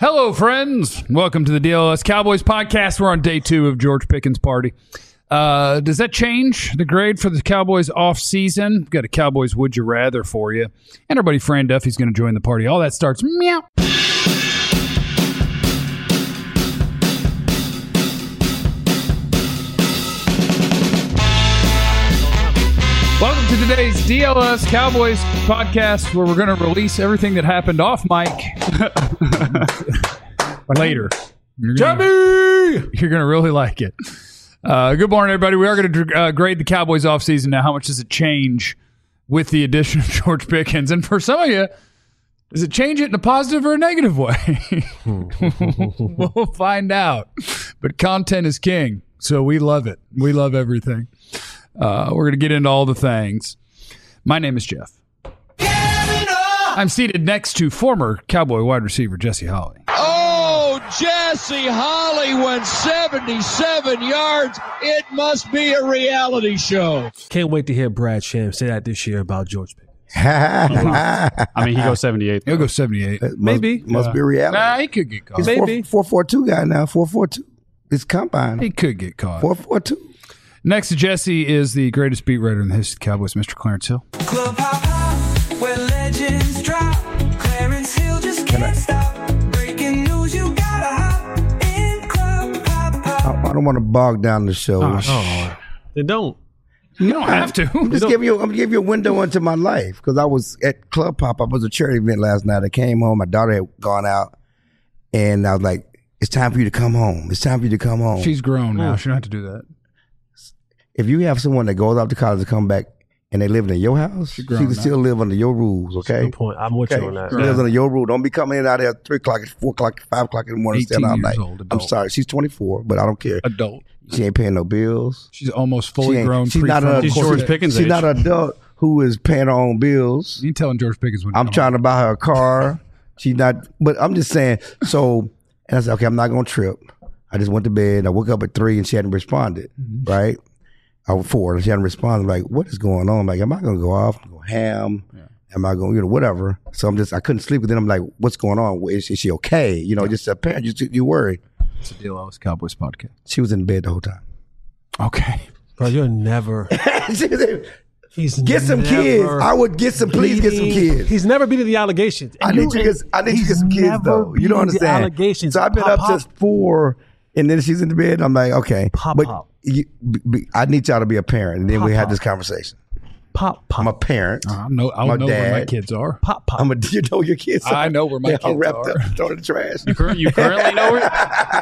Hello, friends. Welcome to the DLS Cowboys podcast. We're on day 2 of George Pickens' party. Does that change the grade for the Cowboys off season? We've got a Cowboys Would You Rather for you. And our buddy Fran Duffy's going to join the party. All that starts meow. Welcome to today's DLS Cowboys podcast, where we're going to release everything that happened off mic later. You're going to really like it. Good morning, everybody. We are going to grade the Cowboys offseason now. How much does it change with the addition of George Pickens? And for some of you, does it change it in a positive or a negative way? We'll find out. But content is king, so we love it. We love everything. We're going to get into all the things. My name is Jeff. I'm seated next to former Cowboy wide receiver Jesse Holley. Oh, Jesse Holley went 77 yards. It must be a reality show. Can't wait to hear Brad Sham say that this year about George Pickens. I mean, he goes 78. He'll go 78. Maybe. Must be reality. Nah, he could get caught. He's Maybe. 4.42 guy now. 4.42. It's combine. He could get caught. 4.42. Next to Jesse is the greatest beat writer in the history of the Cowboys, Mr. Clarence Hill. Club hop hop, where legends drop. Clarence Hill just can't stop. Breaking news, you gotta hop in Club hop hop. I don't want to bog down the show. They don't. You don't have to. I'm giving you a window into my life because I was at Club Pop. I was a charity event last night. I came home. My daughter had gone out, and I was like, "It's time for you to come home. It's time for you to come home." She's grown now. She don't have to do that. If you have someone that goes off to college to come back and they live in your house, she can still live under your rules, okay? Good point. I'm with you on that. She lives under your rule. Don't be coming in out there at 3 o'clock, 4 o'clock, 5 o'clock in the morning, staying all night. Old, I'm sorry. She's 24, but I don't care. Adult. She ain't paying no bills. She's almost fully grown. She's not an She's George Pickens' She's age. not an adult who is paying her own bills. You ain't telling George Pickens when I'm trying to buy her a car. She's not, but I'm just saying. So, and I said, okay, I'm not going to trip. I just went to bed. I woke up at 3 and she hadn't responded, right? I was 4 and she hadn't responded. I'm like, what is going on? I'm like, am I going to go off, go ham? Yeah. Am I going, whatever. So I couldn't sleep. But then I'm like, what's going on? Is she okay? Just a parent, you worried. It's a DLS Cowboys podcast. She was in bed the whole time. Okay. Bro, you're never. Get some kids. I would please get some kids. He's never been to the allegations. I need you to get some kids though. You don't understand. Allegations. So I've been up since 4 and then she's in the bed. I'm like, okay. Pop. I need y'all to be a parent. And then we had this conversation. Pop. I'm a parent. I'll know where my kids are. Pop. You know your kids are. I know where my kids are. Wrapped are. up, thrown in the trash. You currently know where?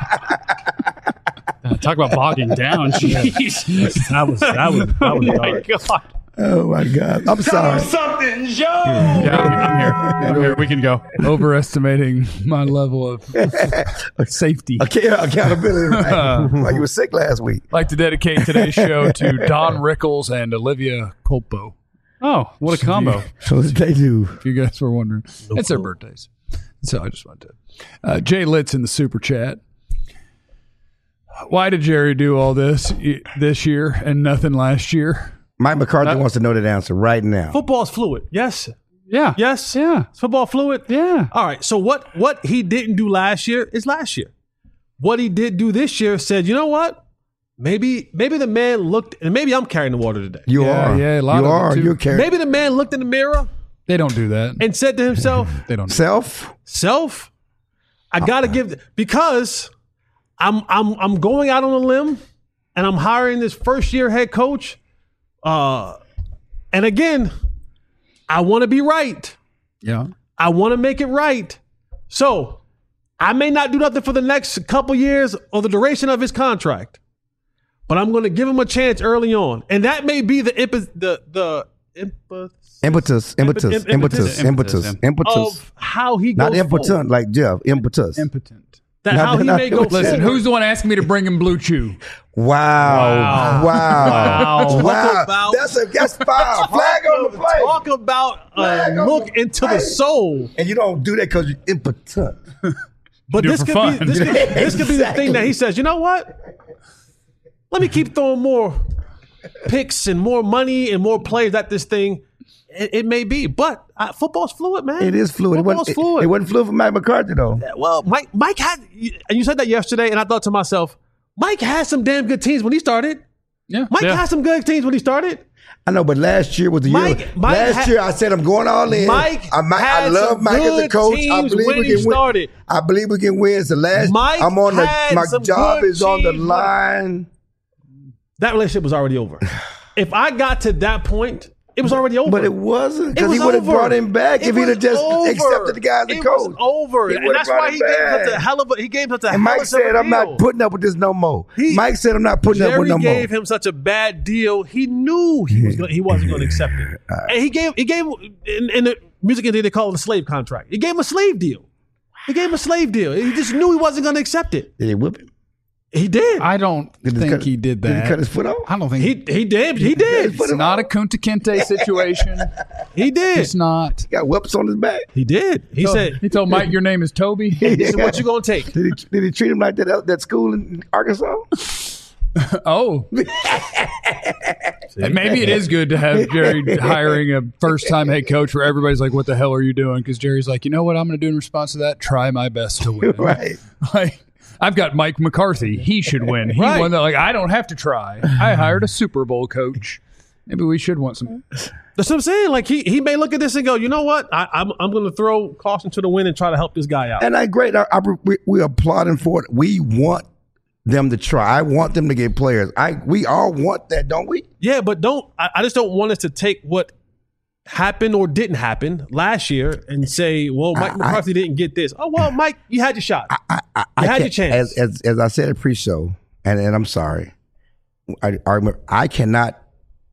Talk about bogging down. Jeez. That was dark. God. Oh my God. I'm sorry. Something, Joe. Yeah, I'm here. We can go. Overestimating my level of safety. Accountability. Right? Like you were sick last week. I'd like to dedicate today's show to Don Rickles and Olivia Culpo. Oh, what a combo. So what did they do? If you guys were wondering. It's their birthdays. So I just wanted to. Jay Litz in the super chat. Why did Jerry do all this year and nothing last year? Mike McCarthy wants to know that answer right now. Football's fluid. Yes. Yeah. Yes. Yeah. Is football fluid? Yeah. All right. So what he didn't do last year is last year. What he did do this year said, you know what? Maybe the man looked, and maybe I'm carrying the water today. You are. Yeah, a lot you of are. it too. You're carrying. Maybe the man looked in the mirror They don't do that. and said to himself, They don't. Self. I gotta because I'm going out on a limb and I'm hiring this first year head coach. And again, I want to be right. Yeah. I want to make it right. So I may not do nothing for the next couple years or the duration of his contract, but I'm going to give him a chance early on, and that may be the impetus of how he goes not impotent forward. like Jeff. Impetus. Impotent. That how he may go Listen, forward. who's the one asking me to bring him Blue Chew? Wow. Talk about- That's foul. Flag on the play. Talk about a look into the soul. And you don't do that because you're impotent. But do it this for could fun. be this could be the thing that he says, you know what? Let me keep throwing more picks and more money and more players at this thing. It may be, but football's fluid, man. It is fluid. Football's fluid. It wasn't fluid for Mike McCarthy, though. Well, Mike had, and you said that yesterday, and I thought to myself, Mike had some damn good teams when he started. Yeah. Mike had some good teams when he started. I know, but last year was the year. Last year, I said I'm going all in. I love Mike as a coach. I believe we can win. I believe we can win. So my job is on the line. That relationship was already over. If I got to that point, it was already over. But it wasn't, because he would have brought him back if he'd have just accepted the guy as a coach. It was over. And that's why he gave such a hell of a And Mike said, I'm not putting up with this no more. Mike said, I'm not putting up with no more. Jerry gave him such a bad deal. He knew he wasn't going to accept it. And he gave in the music industry, they call it a slave contract. He gave him a slave deal. He just knew he wasn't going to accept it. Did he whip him? He did. I don't think he did that. Did he cut his foot off? I don't think he did. He did. It's not a Kunta Kinte situation. He did. It's not. He got whips on his back. He did. He told Mike, your name is Toby. This is what you gonna take. Did he treat him like that school in Arkansas? Oh. Maybe it is good to have Jerry hiring a first-time head coach where everybody's like, what the hell are you doing? Because Jerry's like, you know what I'm going to do in response to that? Try my best to win. Right. Like, I've got Mike McCarthy. He should win. He won that. Like, I don't have to try. I hired a Super Bowl coach. Maybe we should want some. That's what I'm saying. Like, he may look at this and go, you know what? I'm going to throw caution to the wind and try to help this guy out. And we're applauding for it. We want them to try. I want them to get players. We all want that, don't we? Yeah, but I just don't want us to take what happened or didn't happen last year and say, well, Mike McCarthy didn't get this. Oh, well, Mike, you had your shot. You had your chance. As I said at pre-show, and I'm sorry, I cannot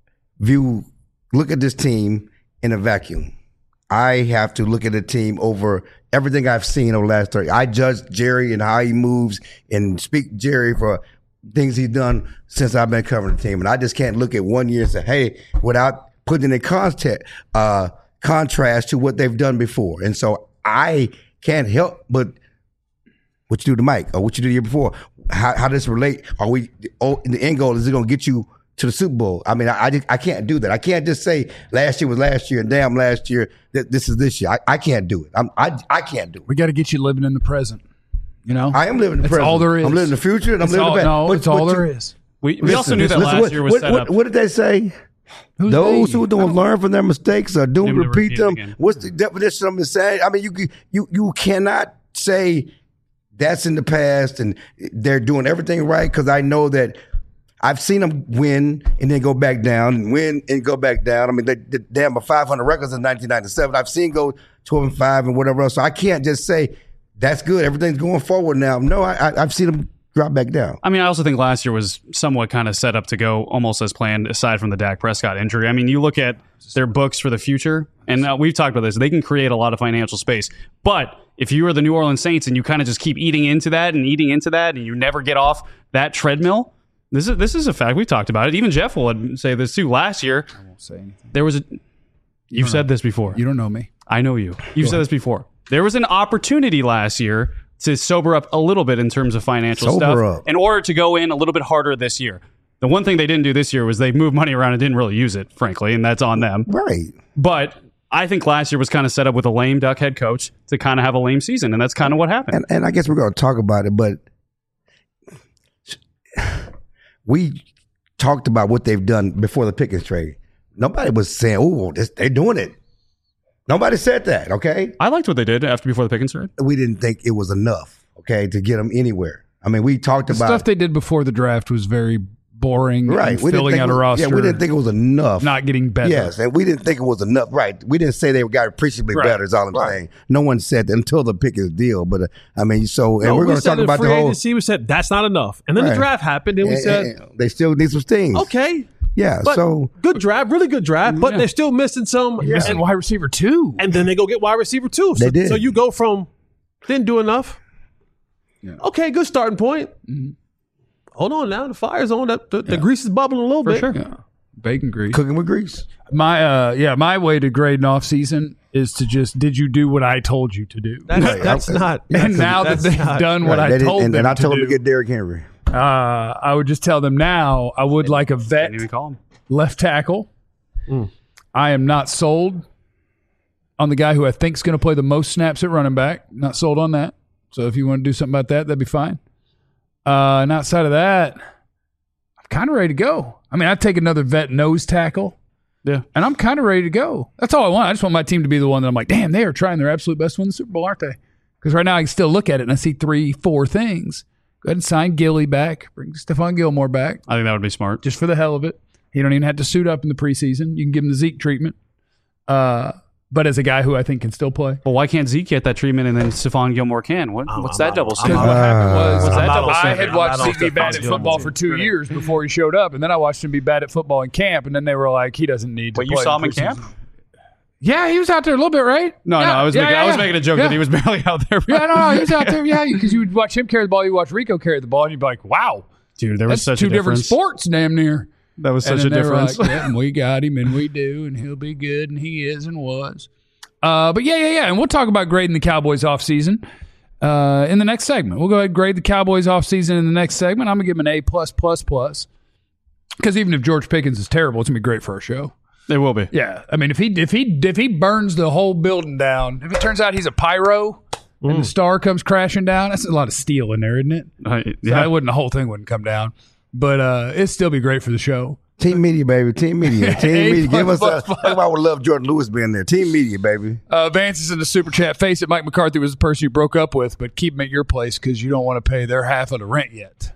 look at this team in a vacuum. I have to look at the team over everything I've seen over the last 30. I judge Jerry and how he moves and speak Jerry for things he's done since I've been covering the team. And I just can't look at 1 year and say, hey, without putting it in contrast to what they've done before. And so I can't help but what you do to Mike or what you do the year before. How does this relate? The end goal, is it going to get you to the Super Bowl? I mean, I can't do that. I can't just say last year was last year and damn last year that this is this year. I can't do it. I can't do it. We got to get you living in the present. You know, I am living in the present. That's all there is. I'm living in the future and I'm living in the past. No, it's all there is. We also knew that last year was set up. What did they say? Those who don't learn from their mistakes are doomed to repeat them. Again. What's the definition of insanity? I mean, you cannot say that's in the past and they're doing everything right, because I know that I've seen them win and then go back down and win and go back down. I mean, they have 500 records in 1997. I've seen go 12-5 and whatever else. So I can't just say that's good. Everything's going forward now. No, I've seen them drop back down. I mean, I also think last year was somewhat kind of set up to go almost as planned, aside from the Dak Prescott injury. I mean, you look at their books for the future, and we've talked about this. They can create a lot of financial space. But if you are the New Orleans Saints and you kind of just keep eating into that and you never get off that treadmill, this is a fact. We've talked about it. Even Jeff will say this too. Last year, I won't say anything. There was You've said this before. You don't know me. I know you. You've said this before. There was an opportunity last year to sober up a little bit in terms of financial stuff in order to go in a little bit harder this year. The one thing they didn't do this year was they moved money around and didn't really use it, frankly, and that's on them. Right. But I think last year was kind of set up with a lame duck head coach to kind of have a lame season, and that's kind of what happened. And I guess we're going to talk about it, but we talked about what they've done before the Pickens trade. Nobody was saying, oh, they're doing it. Nobody said that, okay? I liked what they did before the Pickens trade. We didn't think it was enough, okay, to get them anywhere. I mean, we talked about... The stuff they did before the draft was very boring, right? And filling out a roster. Yeah, we didn't think it was enough. Not getting better. Yes, and we didn't think it was enough. Right. We didn't say they got appreciably better, is all I'm saying. No one said that until the Pickens deal. But, I mean, so... And we're going to talk about the whole... We said, that's not enough. And then the draft happened, and we said... They still need some things. Okay. Yeah, but so... Good draft, really good draft, but they're still missing some... Missing wide receiver 2. And then they go get wide receiver 2. They did. So you go from... Didn't do enough. Yeah. Okay, good starting point. Mm-hmm. Hold on now. The fire's on. The grease is bubbling a little bit. For sure. Yeah. Bacon grease. Cooking with grease. My way to grade an off season is to just, did you do what I told you to do? That's not. And now that they've done what I told them to do. And I told them to get Derrick Henry. I would just tell them now I would like a vet Didn't even call him. left tackle. I am not sold on the guy who I think is going to play the most snaps at running back. Not sold on that. So if you want to do something about that, that'd be fine. And outside of that, I'm kind of ready to go. I mean, I'd take another vet nose tackle. Yeah. And I'm kind of ready to go. That's all I want. I just want my team to be the one that I'm like, damn, they are trying their absolute best to win the Super Bowl, aren't they? Because right now I can still look at it and I see 3-4 things. Go ahead and sign Gilly back. Bring Stephon Gilmore back. I think that would be smart. Just for the hell of it. He don't even have to suit up in the preseason. You can give him the Zeke treatment. But as a guy who I think can still play. Well, why can't Zeke get that treatment and then Stephon Gilmore can? What's that double Because standard? what happened was I had I'm watched not Zeke be on bad at Stephon football for 2 years before he showed up, and then I watched him be bad at football in camp, and then they were like, he doesn't need to Wait, play. you saw him in preseason. camp? Yeah, he was out there a little bit, right? No, I was making a joke that he was barely out there. Yeah, no, he was out there. Yeah, because you would watch him carry the ball, you watch Rico carry the ball, and you'd be like, wow, Dude, there was that's such a two different difference. sports, damn near. That was And such a then they were difference. Like, yeah, and we got him, and we do, and he'll be good, and he is and was. But yeah. And we'll talk about grading the Cowboys offseason in the next segment. We'll go ahead and grade the Cowboys offseason in the next segment. I'm going to give him an A+++. Because even if George Pickens is terrible, it's going to be great for our show. It will be. Yeah. I mean, if he burns the whole building down, if it turns out he's a pyro and the star comes crashing down, that's a lot of steel in there, isn't it? So the whole thing wouldn't come down. But it'd still be great for the show. Team media, baby. Team media. Team A media. Give us plus, a. That's why I would love Jordan Lewis being there. Team media, baby. Vance is in the super chat. Face it, Mike McCarthy was the person you broke up with, but keep him at your place because you don't want to pay their half of the rent yet.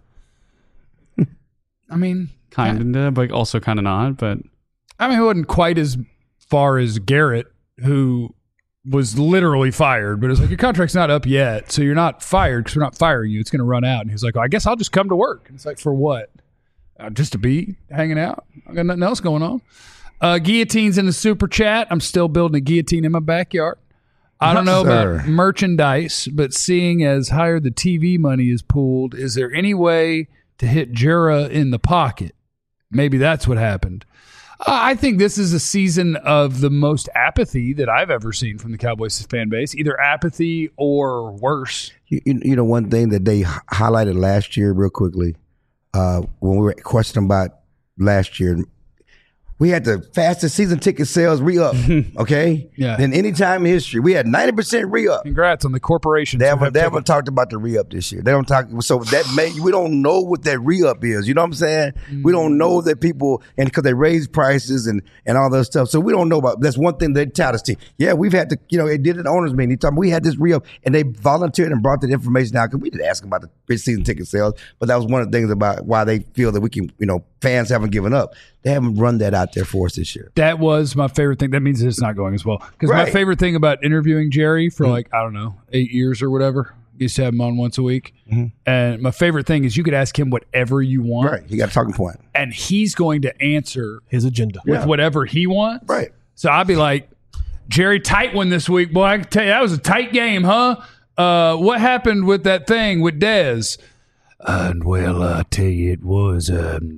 I mean, Kind of, but also kind of not. But it wasn't quite as far as Garrett, who was literally fired, but it's like, your contract's not up yet, so you're not fired because we're not firing you. It's going to run out. And he's like, I guess I'll just come to work. And it's like, for what? Just to be hanging out? I got nothing else going on. Guillotine's in the super chat. I'm still building a guillotine in my backyard. I don't know about merchandise, but seeing as higher the TV money is pooled, is there any way to hit Jura in the pocket? Maybe that's what happened. I think this is a season of the most apathy that I've ever seen from the Cowboys fan base, either apathy or worse. You know, one thing that they highlighted last year real quickly, when we were questioning about last year, we had the fastest season ticket sales re-up, okay? Yeah. Than any time in history. We had 90% re-up. Congrats on the corporations. They who have haven't taken- talked about the re-up this year. They don't talk. So that we don't know what that re-up is. You know what I'm saying? We don't know that people, and because they raise prices and all that stuff. So we don't know about. That's one thing they tout us to. Yeah, we've had to. You know, it did an owners meeting. We had this re-up, and they volunteered and brought that information out because we didn't ask about the season ticket sales. But that was one of the things about why they feel that we can. You know, fans haven't given up. They haven't run that out there for us this year. That was my favorite thing. That means it's not going as well. Because my Right. favorite thing about interviewing Jerry for I don't know, 8 years or whatever, used to have him on once a week. And my favorite thing is you could ask him whatever you want. Right. He got a talking point. And he's going to answer His agenda. with whatever he wants. Right. So I'd be like, Jerry, tight one this week. Boy, I can tell you, that was a tight game, huh? What happened with that thing with Dez? Well, I tell you, it was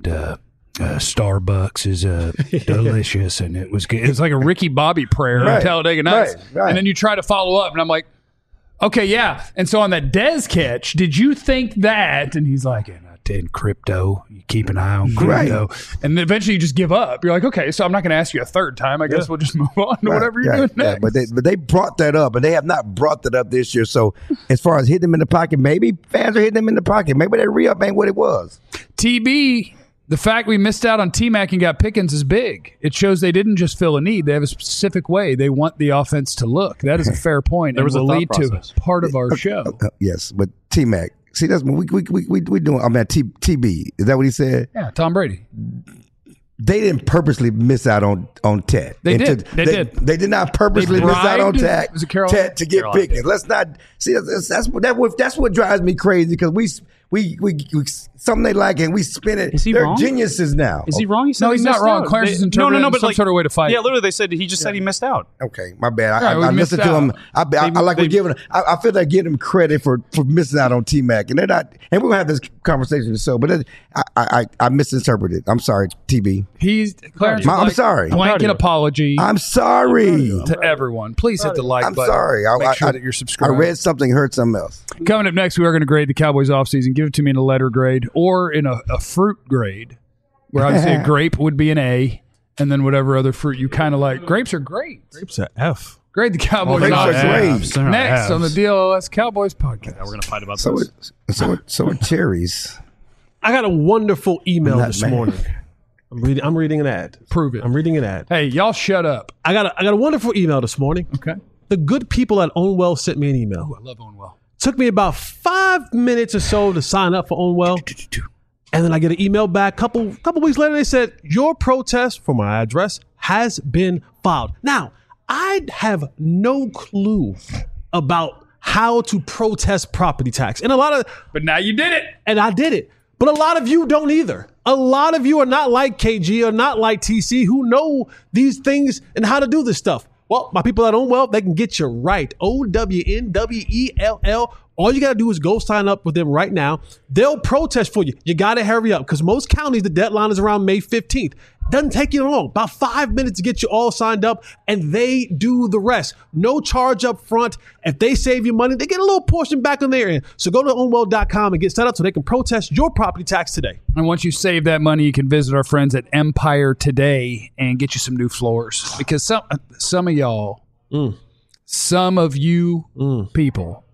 Starbucks is delicious, and it was good. It was like a Ricky Bobby prayer on Right. Talladega Nights. Right. And then you try to follow up, and I'm like, okay, yeah. And so on that Dez catch, did you think that? And he's like, in crypto, you keep an eye on crypto. And then eventually you just give up. You're like, okay, so I'm not going to ask you a third time. I guess we'll just move on to whatever you're doing next. Yeah, but they brought that up, and they have not brought that up this year. So as far as hitting them in the pocket, maybe fans are hitting them in the pocket. Maybe that re-up ain't what it was. TB, the fact we missed out on T-Mac and got Pickens is big. It shows they didn't just fill a need. They have a specific way they want the offense to look. That is a fair point. There was a will thought lead process. to part of our show. Yes, but T-Mac. See, that's what we doing. I'm at TB. Is that what he said? Yeah, Tom Brady. They didn't purposely miss out on Ted. They And did. They did. They did not purposely They miss out on bribed- was it Carolina? Ted to get Pickens. Let's not see. That's what drives me crazy because we something they like and we spin it. Is he They're wrong? geniuses now. Is he wrong? He said No, he he's not missed wrong. out. Clarence is They- interpreting it in some like, sort of way to fight. Yeah, literally, they said he just said he missed out. Okay, my bad. Right, we I missed listened to out. him. I like we're giving. I feel like giving him credit for missing out on T-Mac, and they're not. And we're gonna have this conversation in the show, but I misinterpreted. I'm sorry, TB. He's Clarence. I'm would like sorry. Blanket apology I'm sorry. to everyone. Please hit the like I'm button. sorry. Make sure that you're I subscribed. read something, heard something else. Coming up next, we are going to grade the Cowboys offseason. Give it to me in a letter grade or in a fruit grade, where obviously a grape would be an A and then whatever other fruit you kind of like. Grapes are great. Grapes are F. Grade the Cowboys Grapes off are season. grapes. They're not Next on the Fs. DLLS Cowboys podcast. We're gonna fight about So this. so are cherries. I got a wonderful email I'm not this mad. morning. I'm reading an ad. Prove it. I'm reading an ad. Hey, y'all shut up. I got a wonderful email this morning. Okay. The good people at Ownwell sent me an email. I love Ownwell. Took me about 5 minutes or so to sign up for Ownwell. And then I get an email back. Couple weeks later, they said, your protest for my address has been filed. Now, I have no clue about how to protest property tax. And But now you did it. and I did it. But a lot of you don't either. A lot of you are not like KG or not like TC who know these things and how to do this stuff. Well, my people at Ownwell, they can get you right. OWNWELL. All you got to do is go sign up with them right now. They'll protest for you. You got to hurry up because most counties, the deadline is around May 15th. Doesn't take you long. About 5 minutes to get you all signed up, and they do the rest. No charge up front. If they save you money, they get a little portion back on their end. So go to ownwell.com and get set up so they can protest your property tax today. And once you save that money, you can visit our friends at Empire today and get you some new floors. Because some of y'all, some of you people,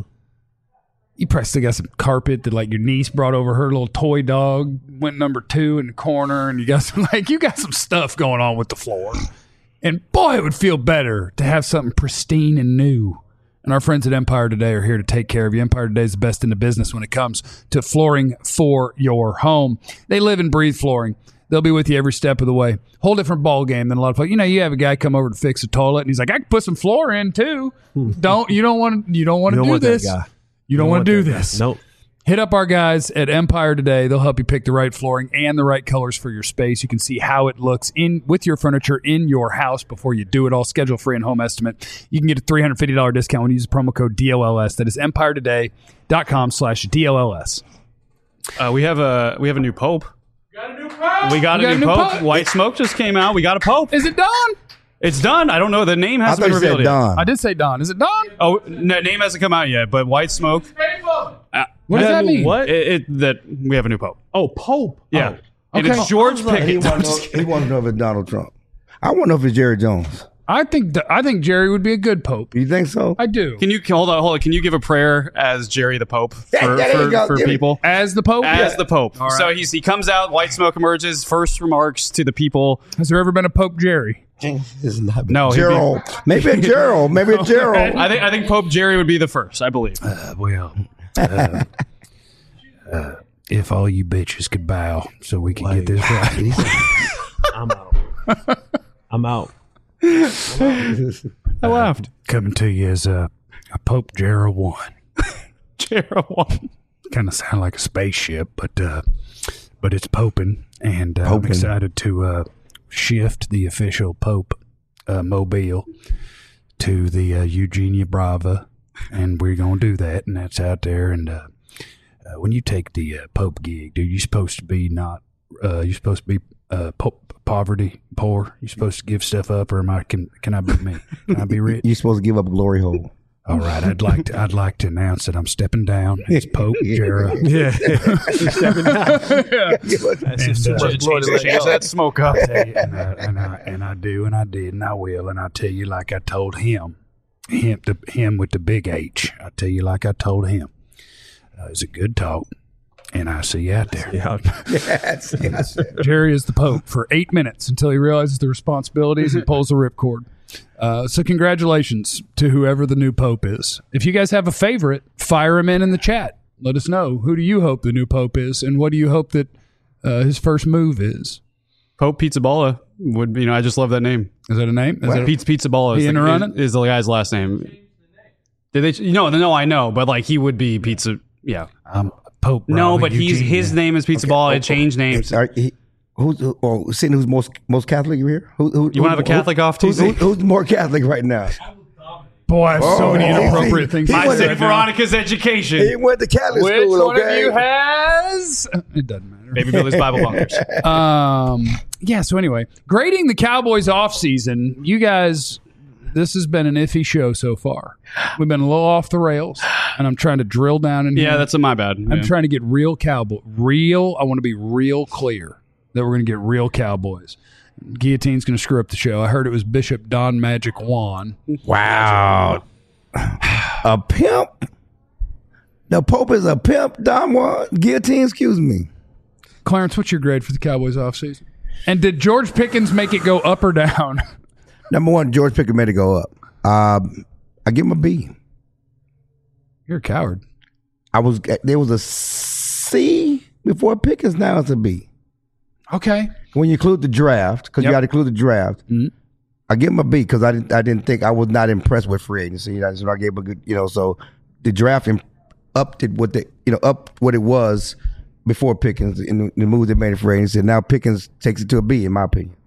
you probably still got some carpet that like your niece brought over her little toy dog, went number 2 in the corner, and you got some stuff going on with the floor. And boy, it would feel better to have something pristine and new. And our friends at Empire Today are here to take care of you. Empire Today is the best in the business when it comes to flooring for your home. They live and breathe flooring. They'll be with you every step of the way. Whole different ball game than a lot of folks. You know, you have a guy come over to fix a toilet, and he's like, "I can put some floor in too." You don't want to do want this. that guy. You don't want to do this. Nope. Hit up our guys at Empire Today. They'll help you pick the right flooring and the right colors for your space. You can see how it looks in with your furniture in your house before you do it all. Schedule free and home estimate. You can get a $350 discount when you use the promo code DLLS. That is empiretoday.com/DLLS. We have a new pope. We got a new pope. White Smoke just came out. We got a pope. Is it Don? It's done. I don't know. The name I hasn't thought been you said revealed yet. Don. I did say Don. Is it Don? Oh, no, name hasn't come out yet. But White Smoke. What does that mean? What? That we have a new pope. Oh, Pope. Yeah, Oh. and Okay. it's George Pickens. He wants to know if it's Donald Trump. I want to know if it's Jerry Jones. I think Jerry would be a good pope. You think so? I do. Can you hold on? Can you give a prayer as Jerry the Pope for, there you go. for Give it. people? As the pope? As the Pope. All right. So he comes out, White Smoke emerges, first remarks to the people. Has there ever been a Pope Jerry? This is not No, he'd be- Gerald. Maybe a Gerald. Maybe a Gerald. I think Pope Jerry would be the first, I believe. If all you bitches could bow so we can get this right. I'm out. I'm out. I laughed. Coming to you as a Pope Gerald 1. Gerald won. Kind of sound like a spaceship, but it's poping, and I'm Poping. excited to shift the official Pope mobile to the Eugenia Brava, and we're gonna do that, and that's out there. And when you take the Pope gig, dude, you're supposed to be poor. You're supposed to give stuff up, or can I be me? Can I be rich? You're supposed to give up a glory hole. All right, I'd like to announce that I'm stepping down. It's Pope Gerald. Yeah. Change that smoke up. And I do, and I did, and I will, and I tell you like I told him with the big H. I tell you like I told him. It was a good talk, and I see you out there. Jerry is the Pope for 8 minutes until he realizes the responsibilities and pulls the ripcord. So congratulations to whoever the new Pope is. If you guys have a favorite, fire him in the chat. Let us know. Who do you hope the new Pope is, and what do you hope that his first move is? Pope Pizzaballa would be, I just love that name. Is that a name? Is that a- Pizzaballa He in to run it? is the guy's last name. Did they? No, I know, but like he would be Pizza. Yeah. Pope. No, Raleigh, but Eugenia. his name is Pizzaballa. It changed names. Seeing who's most Catholic here? You want to have a Catholic off, TC? Who's more Catholic right now? Boy, I have so many Oh, inappropriate things. he to I went say said right now. Veronica's education. He went to Catholic Which school, one okay? of you has? It doesn't matter. Baby Billy's Bible Bunkers. Yeah, so anyway, grading the Cowboys off season, you guys, this has been an iffy show so far. We've been a little off the rails, and I'm trying to drill down in here. Yeah, that's my bad. I'm trying to get real Cowboy. I want to be real clear that we're going to get real Cowboys. Guillotine's going to screw up the show. I heard it was Bishop Don Magic Juan. Wow. A pimp? The Pope is a pimp, Don Juan? Guillotine, excuse me. Clarence, what's your grade for the Cowboys offseason? And did George Pickens make it go up or down? Number one, George Pickens made it go up. I give him a B. You're a coward. There was a C before Pickens. Now it's a B. Okay. When you include the draft, because you got to include the draft, I give him a B because I didn't think I was not impressed with free agency. So I gave him a good, so the draft upped it up what it was before Pickens in the move they made it free agency. Now Pickens takes it to a B in my opinion.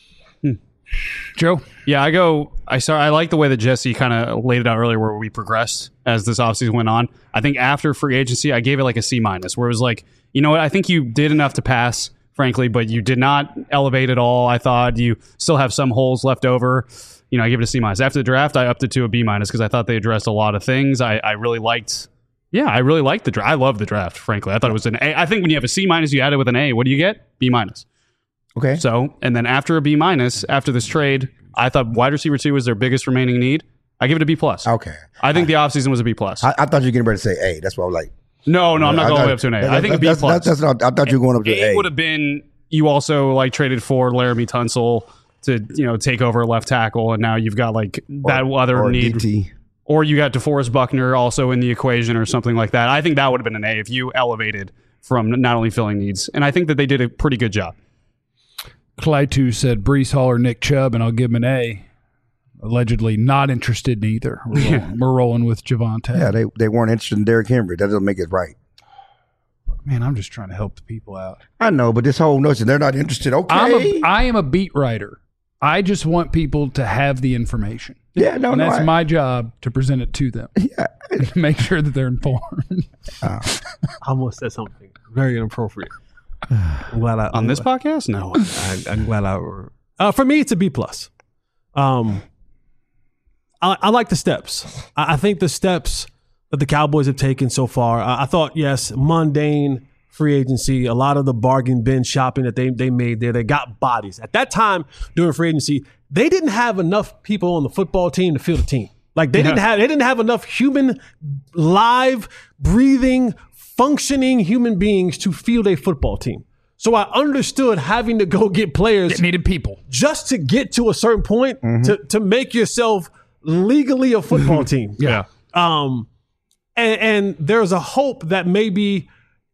Joe? Yeah, I like the way that Jesse kind of laid it out earlier where we progressed as this offseason went on. I think after free agency, I gave it like a C-, where it was like, you know what, I think you did enough to pass, frankly, but you did not elevate at all. I thought you still have some holes left over. I give it a C-. After the draft, I upped it to a B- because I thought they addressed a lot of things. I really liked the draft. I love the draft, frankly. I thought it was an A. I think when you have a C-, you add it with an A. What do you get? B-. Okay. So, and then after a B-, after this trade, I thought wide receiver 2 was their biggest remaining need. I give it a B+. Okay. I think the offseason was a B+. I thought you were getting ready to say A. That's what I was like. No, I'm not going all the way up to an A. I think a B+. That's what I thought you were going up to A A. would have been, you also traded for Laramie Tunsil to, take over left tackle, and now you've got that other need. DT. Or you got DeForest Buckner also in the equation or something like that. I think that would have been an A if you elevated from not only filling needs. And I think that they did a pretty good job. Clyde said Breece Hall or Nick Chubb, and I'll give him an A. Allegedly not interested in either. We're rolling with Javonte. Yeah, they weren't interested in Derrick Henry. That doesn't make it right. Man, I'm just trying to help the people out. I know, but this whole notion, they're not interested. Okay. I am a beat writer. I just want people to have the information. Yeah, and that's my job to present it to them. Yeah. And make sure that they're informed. I almost said something very inappropriate. I'm glad on this podcast? No. I'm glad for me, it's a B+. I like the steps. I think the steps that the Cowboys have taken so far, I thought, yes, mundane free agency, a lot of the bargain bin shopping that they made there, they got bodies. At that time during free agency, they didn't have enough people on the football team to field a team. They didn't have enough human, live, breathing, functioning human beings to field a football team. So I understood having to go get players. It needed people. Just to get to a certain point to make yourself legally a football team. Yeah. And there's a hope that maybe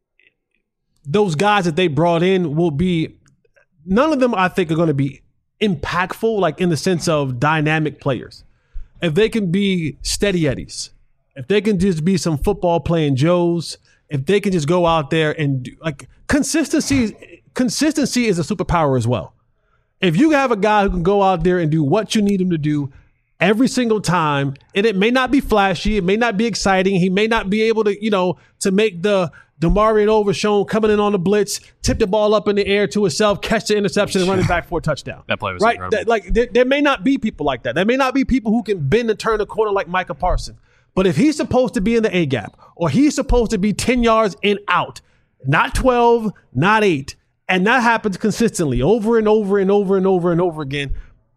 those guys that they brought in will be, none of them I think are going to be impactful, in the sense of dynamic players. If they can be steady Eddies, if they can just be some football playing Joes, if they can just go out there and do, consistency is a superpower as well. If you have a guy who can go out there and do what you need him to do every single time, and it may not be flashy, it may not be exciting, he may not be able to, to make the DeMarion Overshown coming in on the blitz, tip the ball up in the air to himself, catch the interception, and run it back for a touchdown. That play was right. incredible. There may not be people like that. There may not be people who can bend and turn the corner like Micah Parsons. But if he's supposed to be in the A gap, or he's supposed to be 10 yards in out, not 12, not 8, and that happens consistently over and over and over and over and over again,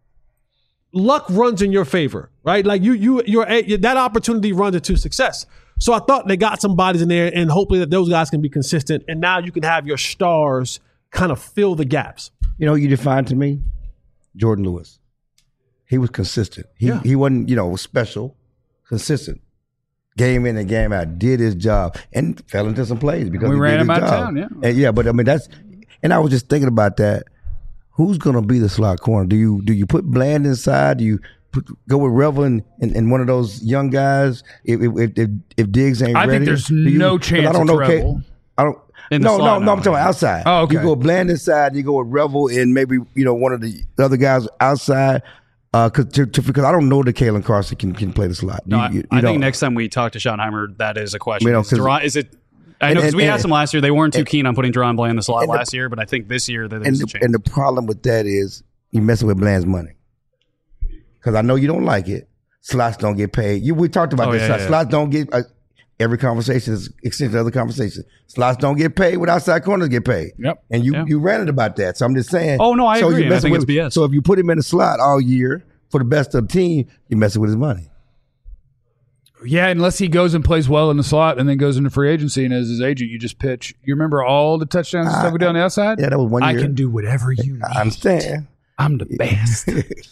luck runs in your favor, right? That opportunity runs into success. So I thought they got some bodies in there, and hopefully that those guys can be consistent. And now you can have your stars kind of fill the gaps. You defined to me Jordan Lewis. He was consistent. He wasn't, special, consistent. Game in and game out, did his job, and fell into some plays because we ran him out of town. Yeah, but I mean and I was just thinking about that. Who's gonna be the slot corner? Do you put Bland inside? Do you go with Revel and one of those young guys if Diggs ain't ready? I think there's no chance. I don't know. Revel. No, I'm talking outside. Oh, okay. You go Bland inside, you go with Revel and maybe one of the other guys outside. Because I don't know that Kalen Carson can play the slot. No, I think next time we talk to Schottenheimer, that is a question. Is it? I know because we asked him last year. They weren't too keen on putting Deron Bland in the slot last year, but I think this year there's a change. And the problem with that is you're messing with Bland's money. Because I know you don't like it. Slots don't get paid. We talked about this. Slots don't get. every conversation is extension of other conversation. Slots don't get paid when outside corners get paid. Yep. And you ranted about that. So I'm just saying. Oh, no, I agree. you're I messing think with, it's BS. So if you put him in the slot all year for the best of the team, you're messing with his money. Yeah, unless he goes and plays well in the slot and then goes into free agency and as his agent, you just pitch. You remember all the touchdowns and stuff we did on the outside? Yeah, that was 1 year. I can do whatever you need. I understand. I'm the best.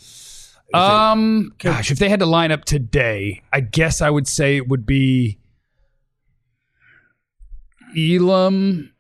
Gosh, if they had to line up today, I guess I would say it would be Elam.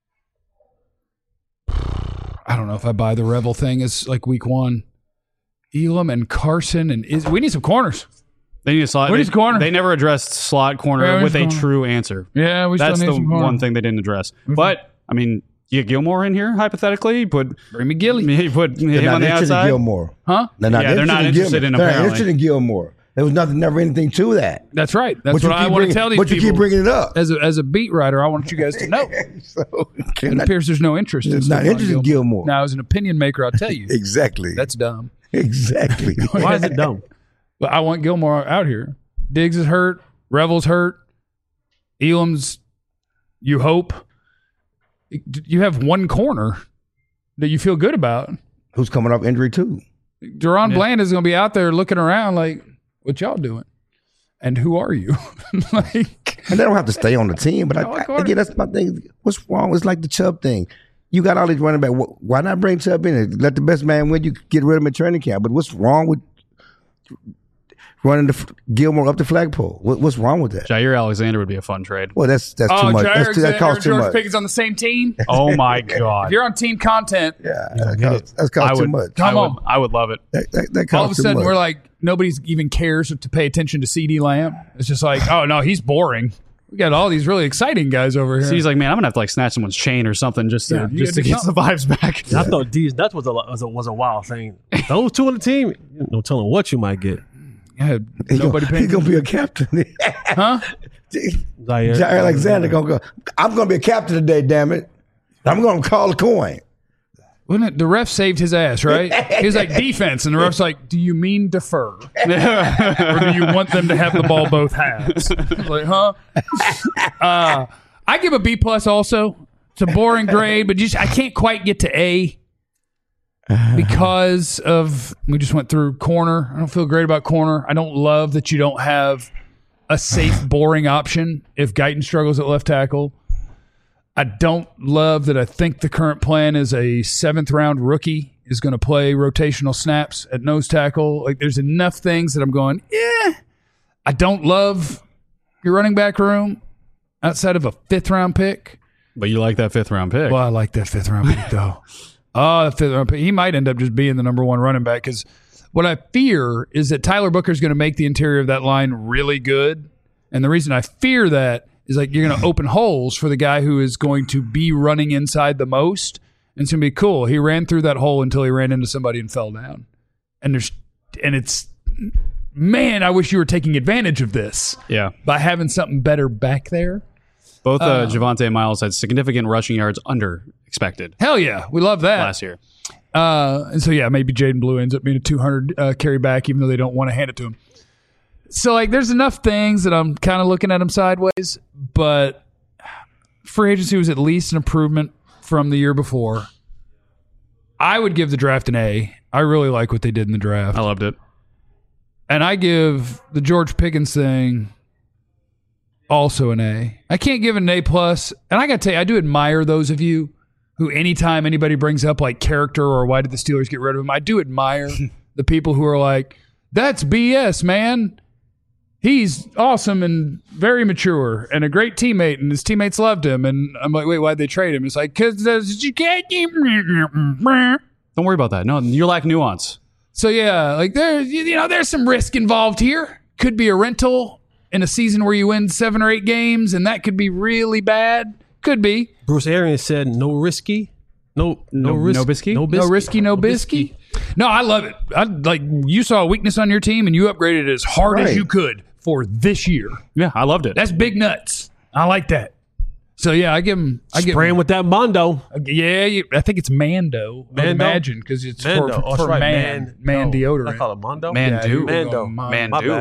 I don't know if I buy the Revel thing as like week one. Elam and Carson and we need some corners. They need a slot. What is corner? They never addressed slot corner Yeah, with a corner. true answer. Yeah, we That's still the need some corners. one thing they didn't address. But I mean, you get Gilmore in here hypothetically. You put Bring me Gilly. you put They're him not on the interested in outside. Gilmore. Huh? They're not Yeah, they're not interested in Gilmore. They're not apparently. interested in Gilmore. There was never anything to that. That's right. That's But you what I keep want to bringing- tell these But people. you keep bringing it up. As a beat writer, I want you guys to know. So, It appears there's no interest. There's in not Stephon interested in Gilmore. Now, as an opinion maker, I'll tell you Exactly. that's dumb. Exactly. Why is it dumb? But I want Gilmore out here. Diggs is hurt. Revel's hurt. Elam's, you hope. You have one corner that you feel good about. Who's coming off injury too? Deron Bland is going to be out there looking around like, what y'all doing? And who are you? Like, And they don't have to stay on the team. But again, that's my thing. What's wrong? It's like the Chubb thing. You got all these running back. Why not bring Chubb in and let the best man win? You get rid of him in training camp. But what's wrong with running Gilmore up the flagpole? What's wrong with that? Jair Alexander would be a fun trade. Well, that's too much. Jair That costs too George much. Pickens on the same team. Oh my If God! you're on team content, Yeah, that costs too much. I would love it. That costs all of a too sudden much. we're like, nobody even cares to pay attention to CD Lamb. It's just like, oh no, he's boring. We got all these really exciting guys over here. So he's like, man, I'm gonna have to like snatch someone's chain or something just to you gotta do get the vibes back. I thought D's nuts was a wild thing. Those two on the team, no telling what you might get. yeah, nobody paying He's gonna be a captain. huh? Jair Jair Alexander gonna go. I'm gonna be a captain today. Damn it! I'm gonna call a coin. Wasn't it the ref saved his ass, right? He was like defense, and the ref's like, do you mean defer? Or do you want them to have the ball both halves? I was like, huh? I give a B plus also. It's a boring grade, but I can't quite get to A because of we just went through corner. I don't feel great about corner. I don't love that you don't have a safe, boring option if Guyton struggles at left tackle. I don't love that I think the current plan is a 7th round rookie is going to play rotational snaps at nose tackle. Like there's enough things that I'm going, I don't love your running back room outside of a 5th round pick. But you like that 5th round pick. Well, I like that 5th round pick though. Oh, the 5th round pick. He might end up just being the number 1 running back because what I fear is that Tyler Booker is going to make the interior of that line really good. And the reason I fear that is like you're going to open holes for the guy who is going to be running inside the most. And it's going to be cool. He ran through that hole until he ran into somebody and fell down. And it's, man, I wish you were taking advantage of this Yeah. by having something better back there. Both Javonte and Miles had significant rushing yards under expected Hell yeah. We love that. last year. And so, yeah, maybe Jaden Blue ends up being a 200 carry back, even though they don't want to hand it to him. So, like, there's enough things that I'm kind of looking at him sideways, but free agency was at least an improvement from the year before. I would give the draft an A. I really like what they did in the draft. I loved it. And I give the George Pickens thing also an A. I can't give it an A+. And I got to tell you, I do admire those of you who anytime anybody brings up, like, character or why did the Steelers get rid of him, I do admire the people who are like, that's BS, man. He's awesome and very mature and a great teammate, and his teammates loved him. And I'm like, wait, why'd they trade him? It's like, because you can't. Don't worry about that. No, you lack nuance. So, yeah, like there's some risk involved here. Could be a rental in a season where you win 7 or 8 games, and that could be really bad. Could be. Bruce Arians said no risky. No risk. No bisky? No bisky. No risky, no bisky. No, I love it. Like you saw a weakness on your team, and you upgraded it as hard as Right. you could for this year. Yeah, I loved it. That's big nuts. I like that. So yeah, I give him. Spraying with that Mondo. Yeah, I think it's Mando. I would Mando? imagine because it's Mando. for that's right. man No. deodorant. I call it Mondo. Man, do. Mando. Man, My do. bad.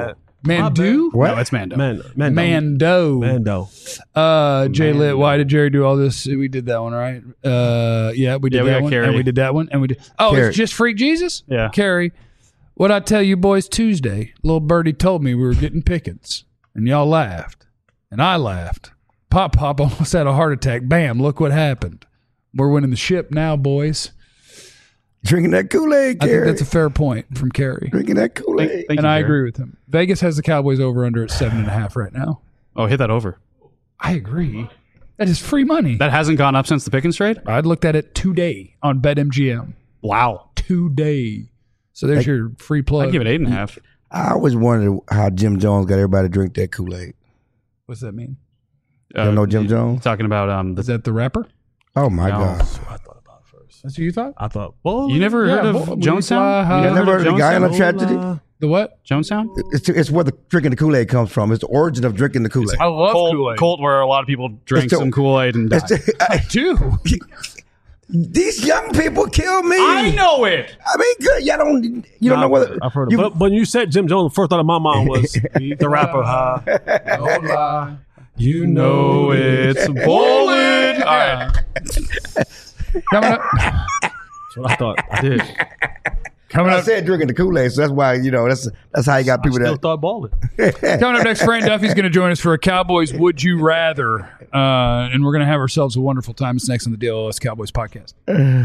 Mando? What? No, it's Mando. Mando. Jay Lit, why did Jerry do all this? We did that one, right? Yeah, we did we that got one. Carrie. And we did that one. And we did. Oh, Carrie. it's just Freak Jesus? Yeah. Carrie. What I tell you boys Tuesday, little birdie told me we were getting pickets. And y'all laughed. And I laughed. Pop almost had a heart attack. Bam, look what happened. We're winning the ship now, boys. Drinking that Kool-Aid, I Carrie. think that's a fair point from Carrie. Drinking that Kool-Aid. Thank And you, I Jerry. agree with him. Vegas has the Cowboys over under at 7.5 right now. Oh, hit that over. I agree. That is free money. That hasn't gone up since the Pickens trade? I'd looked at it today on BetMGM. Wow. Today. So there's your free plug. I'd give it 8.5. I always wondered how Jim Jones got everybody to drink that Kool-Aid. What's that mean? You don't know Jim Jones? Talking about Is that the rapper? Oh, my No. God. That's what you thought? I thought, well, You never heard of Will you Jonestown? fly You high? You never heard of the guy on the tragedy? The what? Jonestown? It's where the drinking the Kool-Aid comes from. It's the origin of drinking the Kool-Aid. I love Colt, where a lot of people drank It's the- some Kool-Aid and died. Dude. These young people kill me. know it. I mean, good. Y'all don't. You don't know whether. I've heard of you- it. But when you said Jim Jones, the first thought of my mind was the rapper. You know it's bowling. All right. Coming up. That's what I thought. I did. Coming I up. said drinking the Kool-Aid, so that's why that's how you got people Still that. thought balling. Coming up next, Fran Duffy's going to join us for a Cowboys Would You Rather. And we're going to have ourselves a wonderful time. It's next on the DLS Cowboys podcast.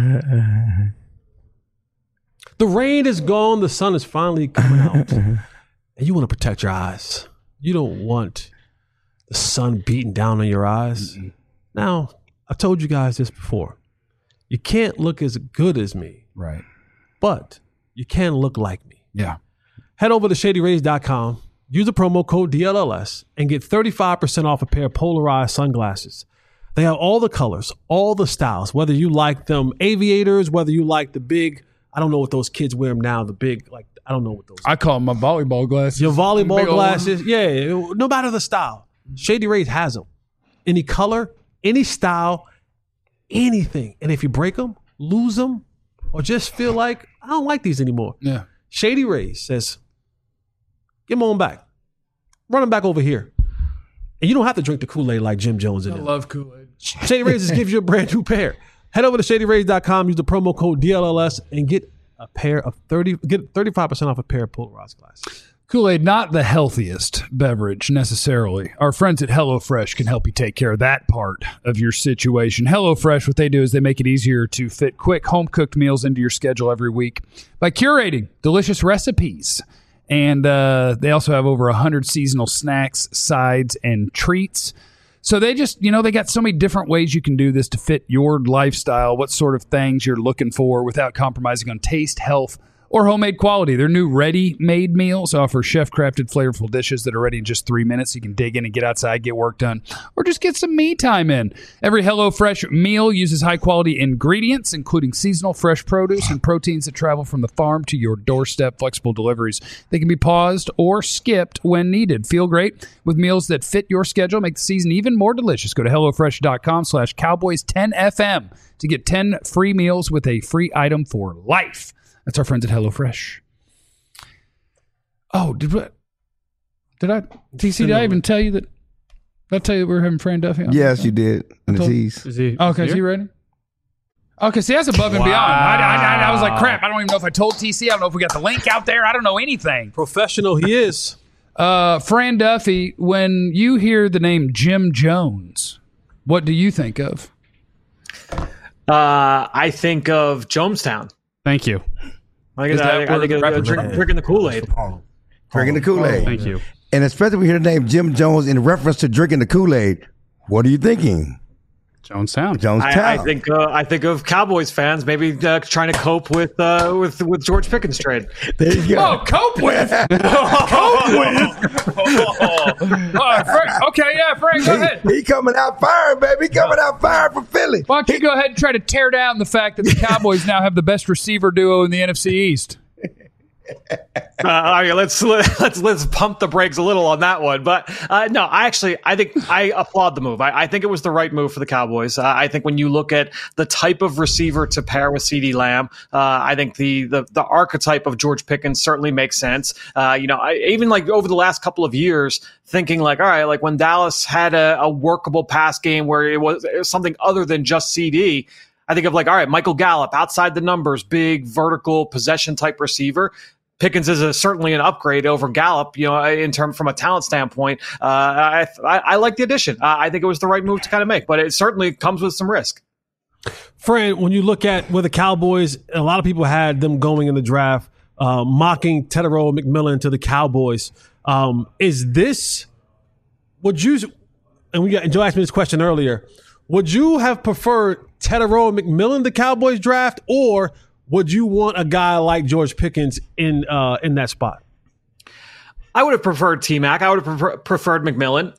The rain is gone. The sun is finally coming out. And you want to protect your eyes. You don't want the sun beating down on your eyes. Now, I've told you guys this before. You can't look as good as me, Right. but you can look like me. Yeah. Head over to ShadyRays.com, use the promo code DLLS, and get 35% off a pair of polarized sunglasses. They have all the colors, all the styles, whether you like them aviators, whether you like the big, I don't know what those kids wear them now, the big, like, I don't know what those I call them my volleyball glasses. Your volleyball Big old glasses, yeah, no matter the style. Shady Rays has them. Any color, any style, anything. And if you break them, lose them, or just feel like, I don't like these anymore. Yeah. Shady Rays says, give them on back. Run them back over here. And you don't have to drink the Kool-Aid like Jim Jones in I it. love Kool-Aid. Shady Rays just gives you a brand new pair. Head over to ShadyRays.com, use the promo code DLLS, and get 35% off a pair of polarized glasses. Kool-Aid, not the healthiest beverage necessarily. Our friends at HelloFresh can help you take care of that part of your situation. HelloFresh, what they do is they make it easier to fit quick home-cooked meals into your schedule every week by curating delicious recipes. And they also have over 100 seasonal snacks, sides, and treats. So they just, they got so many different ways you can do this to fit your lifestyle, what sort of things you're looking for without compromising on taste, health, or homemade quality. Their new ready-made meals offer chef-crafted, flavorful dishes that are ready in just 3 minutes. You can dig in and get outside, get work done, or just get some me time in. Every HelloFresh meal uses high-quality ingredients, including seasonal fresh produce and proteins that travel from the farm to your doorstep. Flexible deliveries. They can be paused or skipped when needed. Feel great with meals that fit your schedule. Make the season even more delicious. Go to HelloFresh.com/Cowboys10FM to get 10 free meals with a free item for life. That's our friends at HelloFresh. Oh, did I even tell you that? Did I tell you that we were having Fran Duffy on? Yes, you did. And the tease. Is he? Okay, is he ready? Okay, see, that's above and beyond. I was like, crap, I don't even know if I told TC. I don't know if we got the link out there. I don't know anything. Professional he is. Fran Duffy, when you hear the name Jim Jones, what do you think of? I think of Jonestown. Thank you. I Is that think where of the rapper drinking the Kool-Aid. Drinking the Kool-Aid. Thank you. And especially when we hear the name Jim Jones in reference to drinking the Kool-Aid, what are you thinking? Jonestown. Jonestown. I think of Cowboys fans maybe trying to cope with George Pickens trade. There you go. Oh, cope with. Okay, yeah, Frank, go ahead. He coming out firing, baby. He coming out firing for Philly. Why don't you go ahead and try to tear down the fact that the Cowboys now have the best receiver duo in the NFC East? Let's pump the brakes a little on that one. But no, I think I applaud the move. I think it was the right move for the Cowboys. I think when you look at the type of receiver to pair with CeeDee Lamb, I think the archetype of George Pickens certainly makes sense. Even like over the last couple of years, thinking like, all right, like when Dallas had a workable pass game where it was something other than just CD. I think of like, all right, Michael Gallup, outside the numbers, big vertical possession type receiver. Pickens is certainly an upgrade over Gallup, from a talent standpoint. I like the addition. I think it was the right move to kind of make, but it certainly comes with some risk. Fran, when you look at where the Cowboys, a lot of people had them going in the draft, mocking Tetairoa McMillan to the Cowboys. Is this, Joe asked me this question earlier, would you have preferred Tetairoa McMillan the Cowboys draft, or would you want a guy like George Pickens in that spot? I would have preferred T-Mac. I would have preferred McMillan.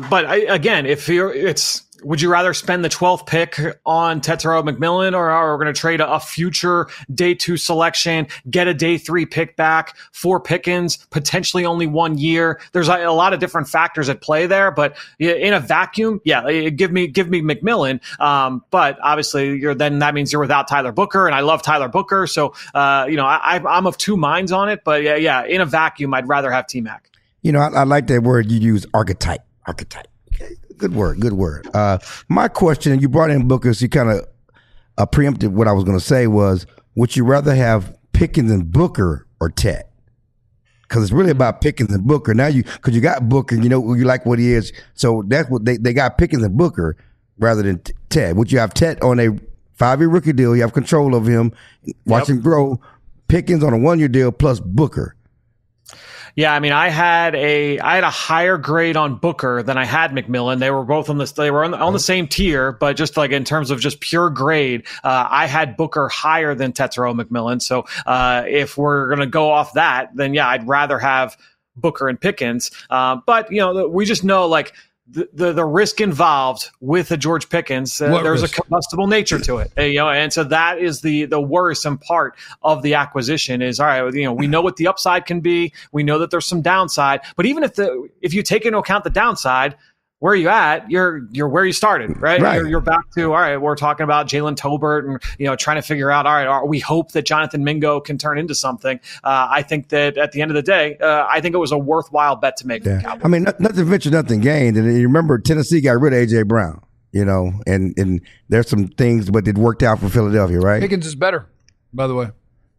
Would you rather spend the 12th pick on Tetairoa McMillan, or are we going to trade a future day 2 selection, get a day 3 pick back for Pickens, potentially only 1 year? There's a lot of different factors at play there, but in a vacuum, give me McMillan. But obviously that means you're without Tyler Booker, and I love Tyler Booker. So, I'm of two minds on it, but in a vacuum, I'd rather have T-Mac. I like that word you use, archetype. Okay. Good word. My question, and you brought in Booker, so you kind of preempted what I was going to say was, would you rather have Pickens and Booker or Ted? Because it's really about Pickens and Booker. Now because you got Booker, you like what he is. So that's what they got, Pickens and Booker rather than Ted. Would you have Ted on a 5-year rookie deal? You have control of him, watch him grow. Pickens on a 1-year deal plus Booker. Yeah, I mean, I had a higher grade on Booker than I had McMillan. They were both on the same tier, but just like in terms of just pure grade, I had Booker higher than Tetairoa McMillan. So if we're gonna go off that, then I'd rather have Booker and Pickens. But we just know like the risk involved with a George Pickens, there's risk? A combustible nature to it, and so that is the worrisome part of the acquisition is, all right, we know what the upside can be. We know that there's some downside, but even if you take into account the downside, where are you at? You're where you started, right? You're back to, all right, we're talking about Jalen Tolbert and, trying to figure out, all right, we hope that Jonathan Mingo can turn into something. I think that at the end of the day, I think it was a worthwhile bet to make. Yeah. I mean, nothing ventured, nothing gained. And you remember Tennessee got rid of A.J. Brown, and there's some things, but it worked out for Philadelphia, right? Pickens is better, by the way.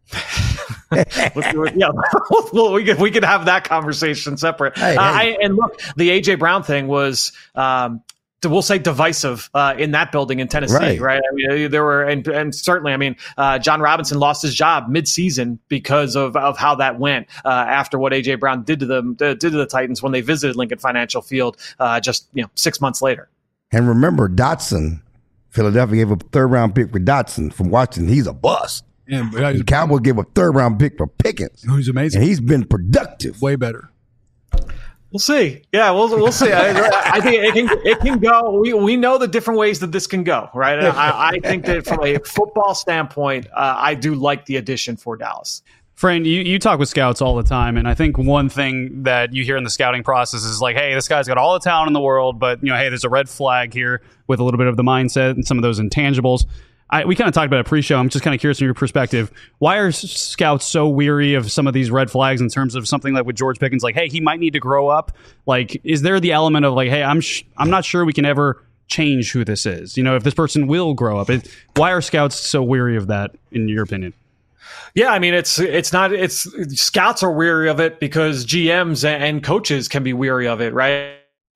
Well, we could have that conversation separate. And look, the AJ Brown thing was, we'll say, divisive in that building in Tennessee, right? I mean, there were, and certainly, I mean, John Robinson lost his job mid-season because of how that went after what AJ Brown did to the Titans when they visited Lincoln Financial Field just 6 months later. And remember, Dotson, Philadelphia gave a 3rd-round pick for Dotson from Washington. He's a bust. Yeah, the Cowboys gave a 3rd-round pick for Pickens. Who's amazing. And he's been productive. Way better. We'll see. Yeah, we'll see. I think it can go. We know the different ways that this can go, right? I think that from a football standpoint, I do like the addition for Dallas. Fran, you talk with scouts all the time, and I think one thing that you hear in the scouting process is like, hey, this guy's got all the talent in the world, but hey, there's a red flag here with a little bit of the mindset and some of those intangibles. We kind of talked about it pre-show. I'm just kind of curious from your perspective. Why are scouts so weary of some of these red flags in terms of something like with George Pickens? Like, hey, he might need to grow up. Like, is there the element of like, hey, I'm not sure we can ever change who this is? If this person will grow up. Why are scouts so weary of that, in your opinion? Yeah, I mean, it's scouts are weary of it because GMs and coaches can be weary of it, right?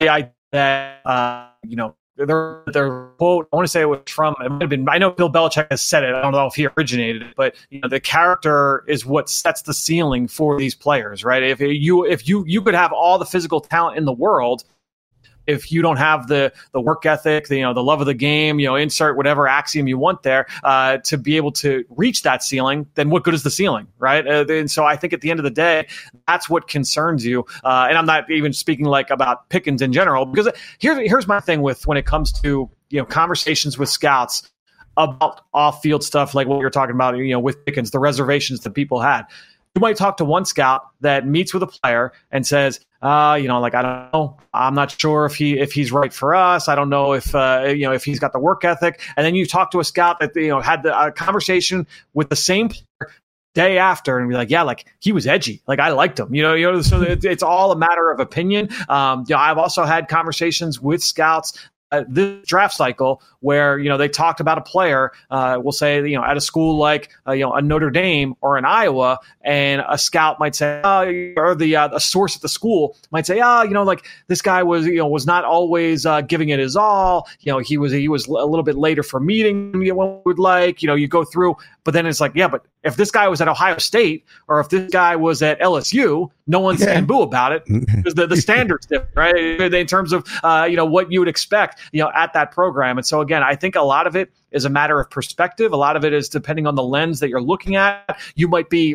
Their quote, I want to say it was from, it might have been, I know Bill Belichick has said it, I don't know if he originated it, but the character is what sets the ceiling for these players, right? If you could have all the physical talent in the world, if you don't have the work ethic, the love of the game, insert whatever axiom you want there to be able to reach that ceiling, then what good is the ceiling, right? And so I think at the end of the day, that's what concerns you. And I'm not even speaking like about Pickens in general, because here's my thing when it comes to conversations with scouts about off-field stuff like what you're talking about, with Pickens, the reservations that people had. you might talk to one scout that meets with a player and says, I don't know. I'm not sure if he's right for us. I don't know if he's got the work ethic. And then you talk to a scout that had a conversation with the same player day after and be like, yeah, like he was edgy. Like I liked him, so it's all a matter of opinion. I've also had conversations with scouts this draft cycle where, they talked about a player, we'll say, at a school like, a Notre Dame or an Iowa, and a scout might say, or a source at the school might say, like this guy was not always giving it his all. He was a little bit later for meeting than one would like, you go through, but then it's like, yeah, but if this guy was at Ohio State or if this guy was at LSU, no one's saying boo about it because the standards different, right? In terms of, what you would expect, at that program. And so again, I think a lot of it is a matter of perspective. A lot of it is depending on the lens that you're looking at. You might be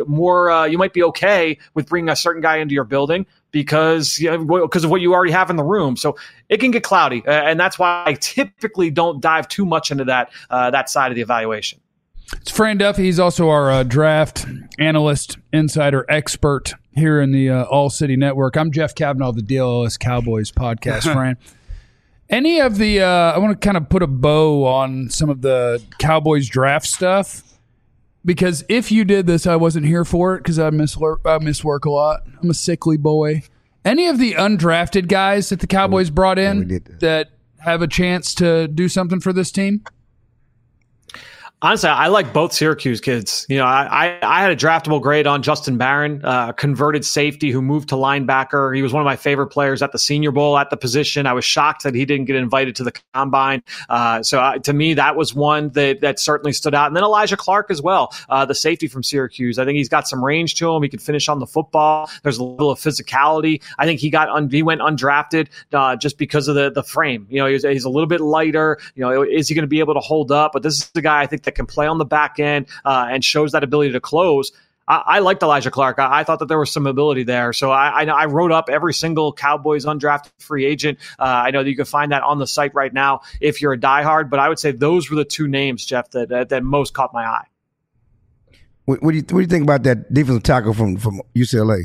okay with bringing a certain guy into your building because of what you already have in the room. So it can get cloudy. And that's why I typically don't dive too much into that side of the evaluation. It's Fran Duffy. He's also our draft analyst, insider, expert here in the All City Network. I'm Jeff Kavanaugh of the DLS Cowboys podcast, Fran. Any of the I want to kind of put a bow on some of the Cowboys draft stuff because if you did this, I wasn't here for it because I miss work a lot. I'm a sickly boy. Any of the undrafted guys that the Cowboys brought in that have a chance to do something for this team? Honestly, I like both Syracuse kids. I had a draftable grade on Justin Barron, converted safety who moved to linebacker. He was one of my favorite players at the Senior Bowl at the position. I was shocked that he didn't get invited to the combine. To me, that was one that certainly stood out. And then Elijah Clark as well, the safety from Syracuse. I think he's got some range to him. He can finish on the football. There's a little of physicality. I think he went undrafted just because of the frame. He's a little bit lighter. Is he going to be able to hold up? But this is the guy I think that can play on the back end and shows that ability to close. I liked Elijah Clark. I thought that there was some ability there. So I wrote up every single Cowboys undrafted free agent. I know that you can find that on the site right now if you're a diehard, but I would say those were the two names, Jeff, that most caught my eye. What do you think about that defensive tackle from UCLA?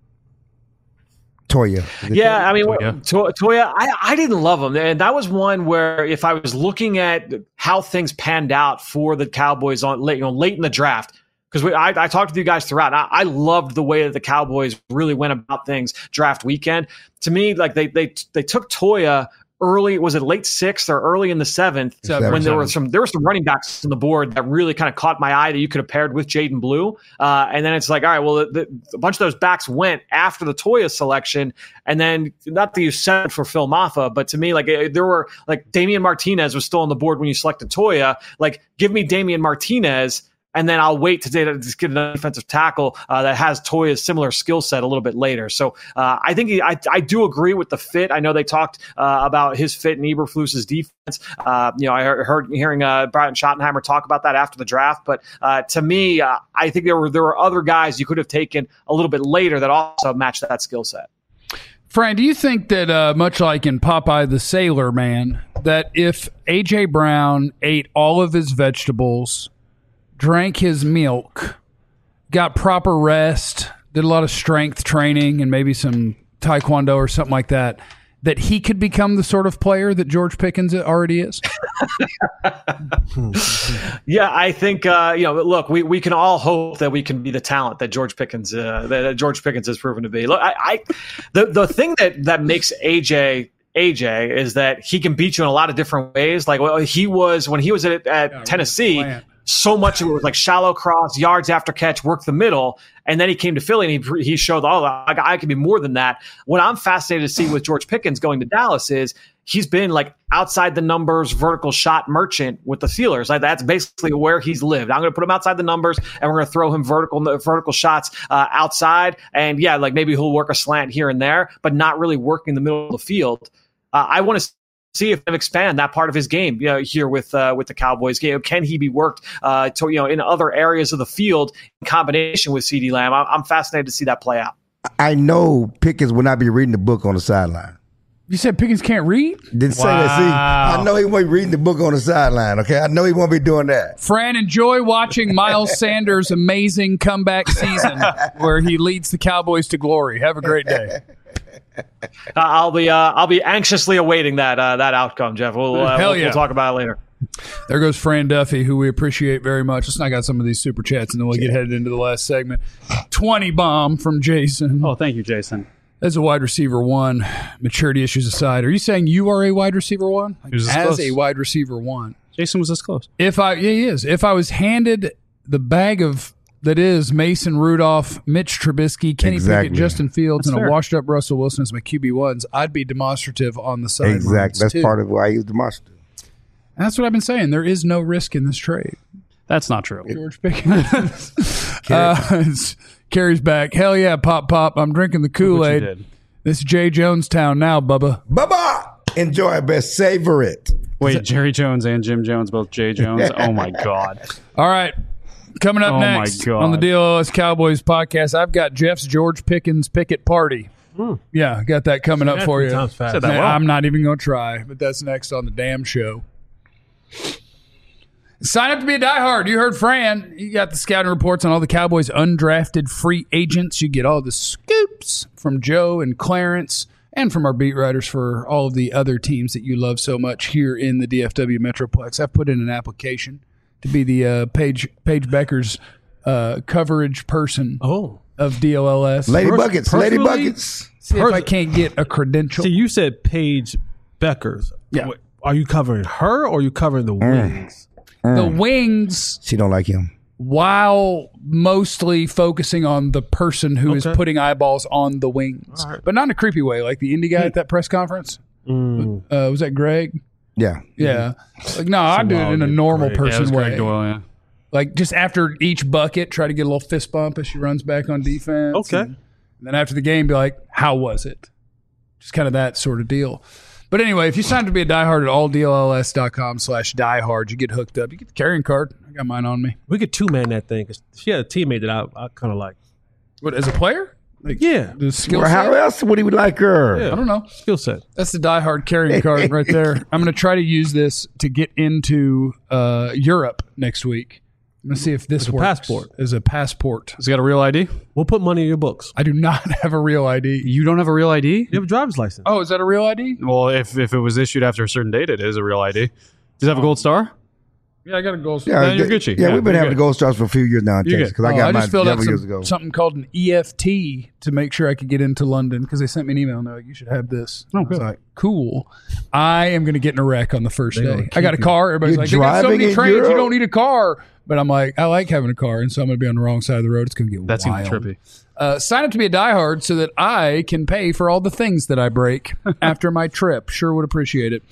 Toya. Yeah, I mean, Toya, I didn't love him. And that was one where if I was looking at how things panned out for the Cowboys late in the draft, because I talked with you guys throughout. I loved the way that the Cowboys really went about things draft weekend. To me, like they took Toya early, was it late 6th or early in the 7th when there were some running backs on the board that really kind of caught my eye that you could have paired with Jaden Blue. And then it's like, all right, well, a bunch of those backs went after the Toya selection. And then not that you said for Phil Maffa, but to me, like there were like Damian Martinez was still on the board when you selected Toya. Like give me Damian Martinez and then I'll wait to get an defensive tackle that has Toya's similar skill set a little bit later. So I think I do agree with the fit. I know they talked about his fit in Eberflus's defense. I heard Brian Schottenheimer talk about that after the draft. But to me, I think there were other guys you could have taken a little bit later that also matched that skill set. Fran, do you think that much like in Popeye the Sailor Man, that if A.J. Brown ate all of his vegetables, drank his milk, got proper rest, did a lot of strength training and maybe some taekwondo or something like that, that he could become the sort of player that George Pickens already is? Yeah, I think look, we can all hope that we can be the talent that George Pickens has proven to be. Look, the thing that makes AJ is that he can beat you in a lot of different ways. Like he was when he was at Tennessee. So much of it was like shallow cross, yards after catch, work the middle. And then he came to Philly and he showed, I can be more than that. What I'm fascinated to see with George Pickens going to Dallas is he's been like outside the numbers, vertical shot merchant with the Steelers. Like that's basically where he's lived. I'm going to put him outside the numbers and we're going to throw him vertical shots outside. And yeah, like maybe he'll work a slant here and there, but not really working the middle of the field. I want to see if they expand that part of his game here with the Cowboys. Can he be worked in other areas of the field in combination with CeeDee Lamb? I'm fascinated to see that play out. I know Pickens will not be reading the book on the sideline. You said Pickens can't read? Didn't say that. See, I know he won't be reading the book on the sideline, okay? I know he won't be doing that. Fran, enjoy watching Miles Sanders' amazing comeback season where he leads the Cowboys to glory. Have a great day. I'll be anxiously awaiting that outcome, Jeff. We'll talk about it later. There goes Fran Duffy, who we appreciate very much. Let's knock out some of these super chats, and then we'll get headed into the last segment. 20 bomb from Jason. Oh, thank you, Jason. As a wide receiver one, maturity issues aside, are you saying you are a wide receiver one? As a wide receiver one. Jason was this close. He is. If I was handed the bag of that is Mason Rudolph, Mitch Trubisky, Kenny Pickett, Justin Fields, and a washed-up Russell Wilson as my QB1s, I'd be demonstrative on the sidelines. Exactly. That's part of why he's demonstrative. And that's what I've been saying. There is no risk in this trade. That's not true. George Pickens. Carries back. Hell yeah, pop. I'm drinking the Kool-Aid. This is Jay Jonestown now, Bubba. Bubba! Enjoy it, best. Savor it. Wait, Jerry Jones and Jim Jones, both Jay Jones? Oh, my God. All right. Coming up next on the DLS Cowboys podcast, I've got Jeff's George Pickens Picket Party. Yeah, got that coming up for you. I'm not even going to try, but that's next on the damn show. Sign up to be a diehard. You heard Fran. You got the scouting reports on all the Cowboys' undrafted free agents. You get all the scoops from Joe and Clarence and from our beat writers for all of the other teams that you love so much here in the DFW Metroplex. I've put in an application to be the Paige Becker's coverage person of DLLS. Lady Buckets. See if I can't get a credential. See, you said Paige Becker's. Yeah. Are you covering her or are you covering the wings? The wings. She don't like him. While mostly focusing on the person who is putting eyeballs on the wings. Right. But not in a creepy way, like the indie guy at that press conference. Was that Greg? Yeah. Like, no, I do it in a normal person way. Greg Doyle, yeah. Like, just after each bucket, try to get a little fist bump as she runs back on defense. Okay. And then after the game, be like, how was it? Just kind of that sort of deal. But anyway, if you sign up to be a diehard at alldlls.com/diehard, you get hooked up. You get the carrying card. I got mine on me. We could two-man that thing because she had a teammate that I kind of like. What, as a player? Like, yeah. The skill Well, set? how else would he like her? Yeah. I don't know. Skill set. That's the diehard carrying card right there. I'm going to try to use this to get into Europe next week. I'm going to see if this works passport. as a passport. Has he got a real ID? We'll put money in your books. I do not have a real ID. You don't have a real ID? You have a driver's license. Oh, is that a real ID? Well, if it was issued after a certain date, it is a real ID. Does it have a gold star? Yeah, I got a gold star. Then you're Gucci. Yeah, we've been having good. the gold stars for a few years now in Texas because I got I mine just filled out several years ago. something called an EFT to make sure I could get into London because they sent me an email and they're like, you should have this. Oh, I was good. like, cool. I am going to get in a wreck on the first day. I got a car. Everybody's You're like, they got so driving many in trains, Europe? you don't need a car. But I'm like, I like having a car, and so I'm going to be on the wrong side of the road. It's going to get That's wild. going to be trippy. Sign up to be a diehard so that I can pay for all the things that I break after my trip. Sure would appreciate it.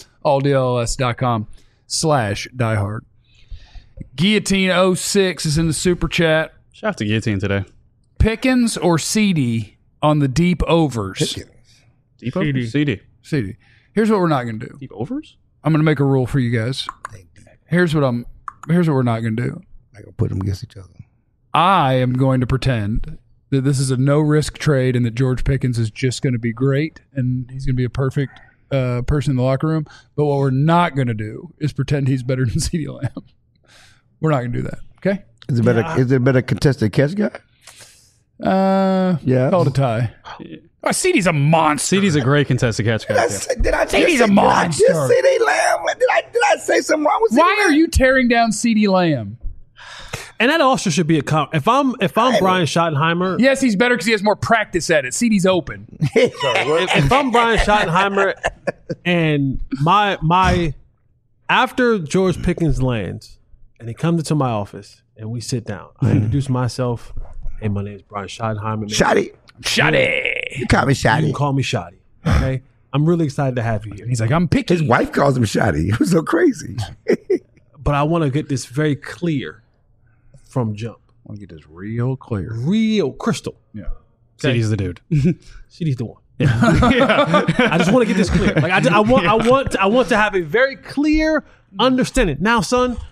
alldls.com/diehard. Guillotine06 is in the super chat. Shout out to Guillotine today. Pickens or CD on the deep overs? Deep overs? CD. CD. Here's what we're not going to do. Deep overs? I'm going to make a rule for you guys. Here's what we're not going to do. I gonna put them against each other. I am going to pretend that this is a no-risk trade and that George Pickens is just going to be great and he's going to be a perfect person in the locker room. But what we're not going to do is pretend he's better than CeeDee Lamb. We're not going to do that. Okay? Is it better? Is it better contested catch guy? Yeah. Call it a tie. CeeDee's a monster. CD's a great contested catch guy. Did I CeeDee's a monster. Did I just CeeDee Lamb? Did I say something wrong with CeeDee Why Lamb? are you tearing down CeeDee Lamb? And that also should be a if I'm Brian Schottenheimer. Yes, he's better because he has more practice at it. CeeDee's open. If I'm Brian Schottenheimer and my after George Pickens lands and he comes into my office and we sit down, I introduce myself. Hey, my name is Brian Schottenheimer. Shotty. You call me You Shotty. can call me Shotty. Okay, I'm really excited to have you here. He's like, I'm picky. His wife calls him Shotty. It was so crazy. But I want to get this very clear from jump. I want to get this real clear. Real crystal. Yeah. CD's the dude. CD's the one. I just want to get this clear. Like I want to have a very clear understanding. Now, son,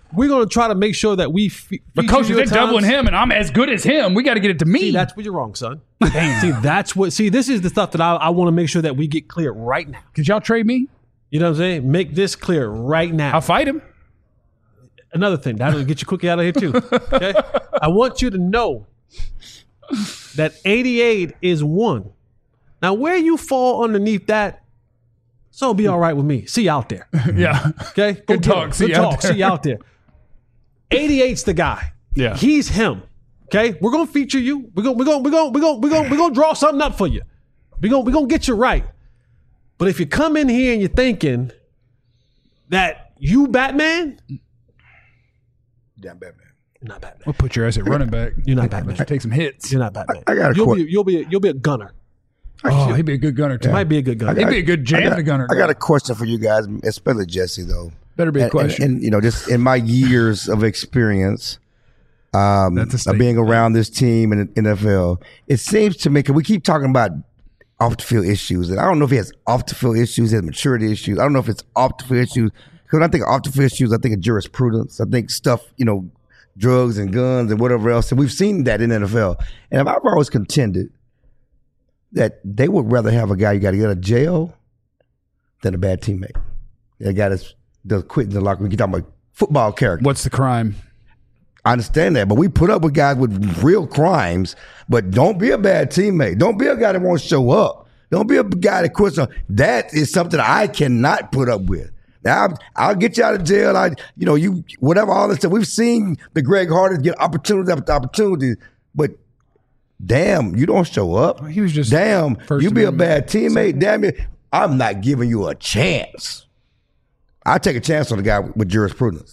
we're going to try to make sure that we But coach, if they're doubling him and I'm as good as him, we got to get it to me. See, that's where you're wrong, son. Damn. See, this is the stuff that I want to make sure that we get clear right now. Could y'all trade me? You know what I'm saying? Make this clear right now. I'll fight him. Another thing, that'll get you quickly out of here too. Okay? I want you to know that 88 is 1. Now, where you fall underneath that, so it'll be all right with me. See you out there. Yeah. Okay? Go Good get talk. him. See Good you out talk. there. See you out there. 88's the guy. Yeah. He's him. Okay? We're gonna feature you. We're gonna draw something up for you. We're gonna get you right. But if you come in here and you're thinking that you Batman, Damn Batman. you're not Batman. We'll put your ass at running back. You're not Batman. Take some hits. You're not Batman. I got a you'll be a gunner. Oh, he'd be a good gunner too. Might be a good gunner. He'd be a good jam the gunner. I got a question for you guys, especially Jesse, though. Better be a question. And you know, just in my years of experience of being around this team in the NFL, it seems to me, because we keep talking about off the field issues, and I don't know if he has off the field issues, he has maturity issues. I don't know if it's off the field issues. Because when I think of off the field issues, I think of jurisprudence. I think stuff, you know, drugs and guns and whatever else. And we've seen that in the NFL. And I've always contended that they would rather have a guy you got to get out of jail than a bad teammate. A guy that does quit in the locker room. You're talking about football character. What's the crime? I understand that, but we put up with guys with real crimes. But don't be a bad teammate. Don't be a guy that won't show up. Don't be a guy that quits. That is something I cannot put up with. Now I'll get you out of jail. Whatever, all this stuff. We've seen the Greg Hardy get opportunity after opportunity, but damn, you don't show up. He was just damn. first You be a amendment. bad teammate. Damn it, I'm not giving you a chance. I take a chance on the guy with jurisprudence.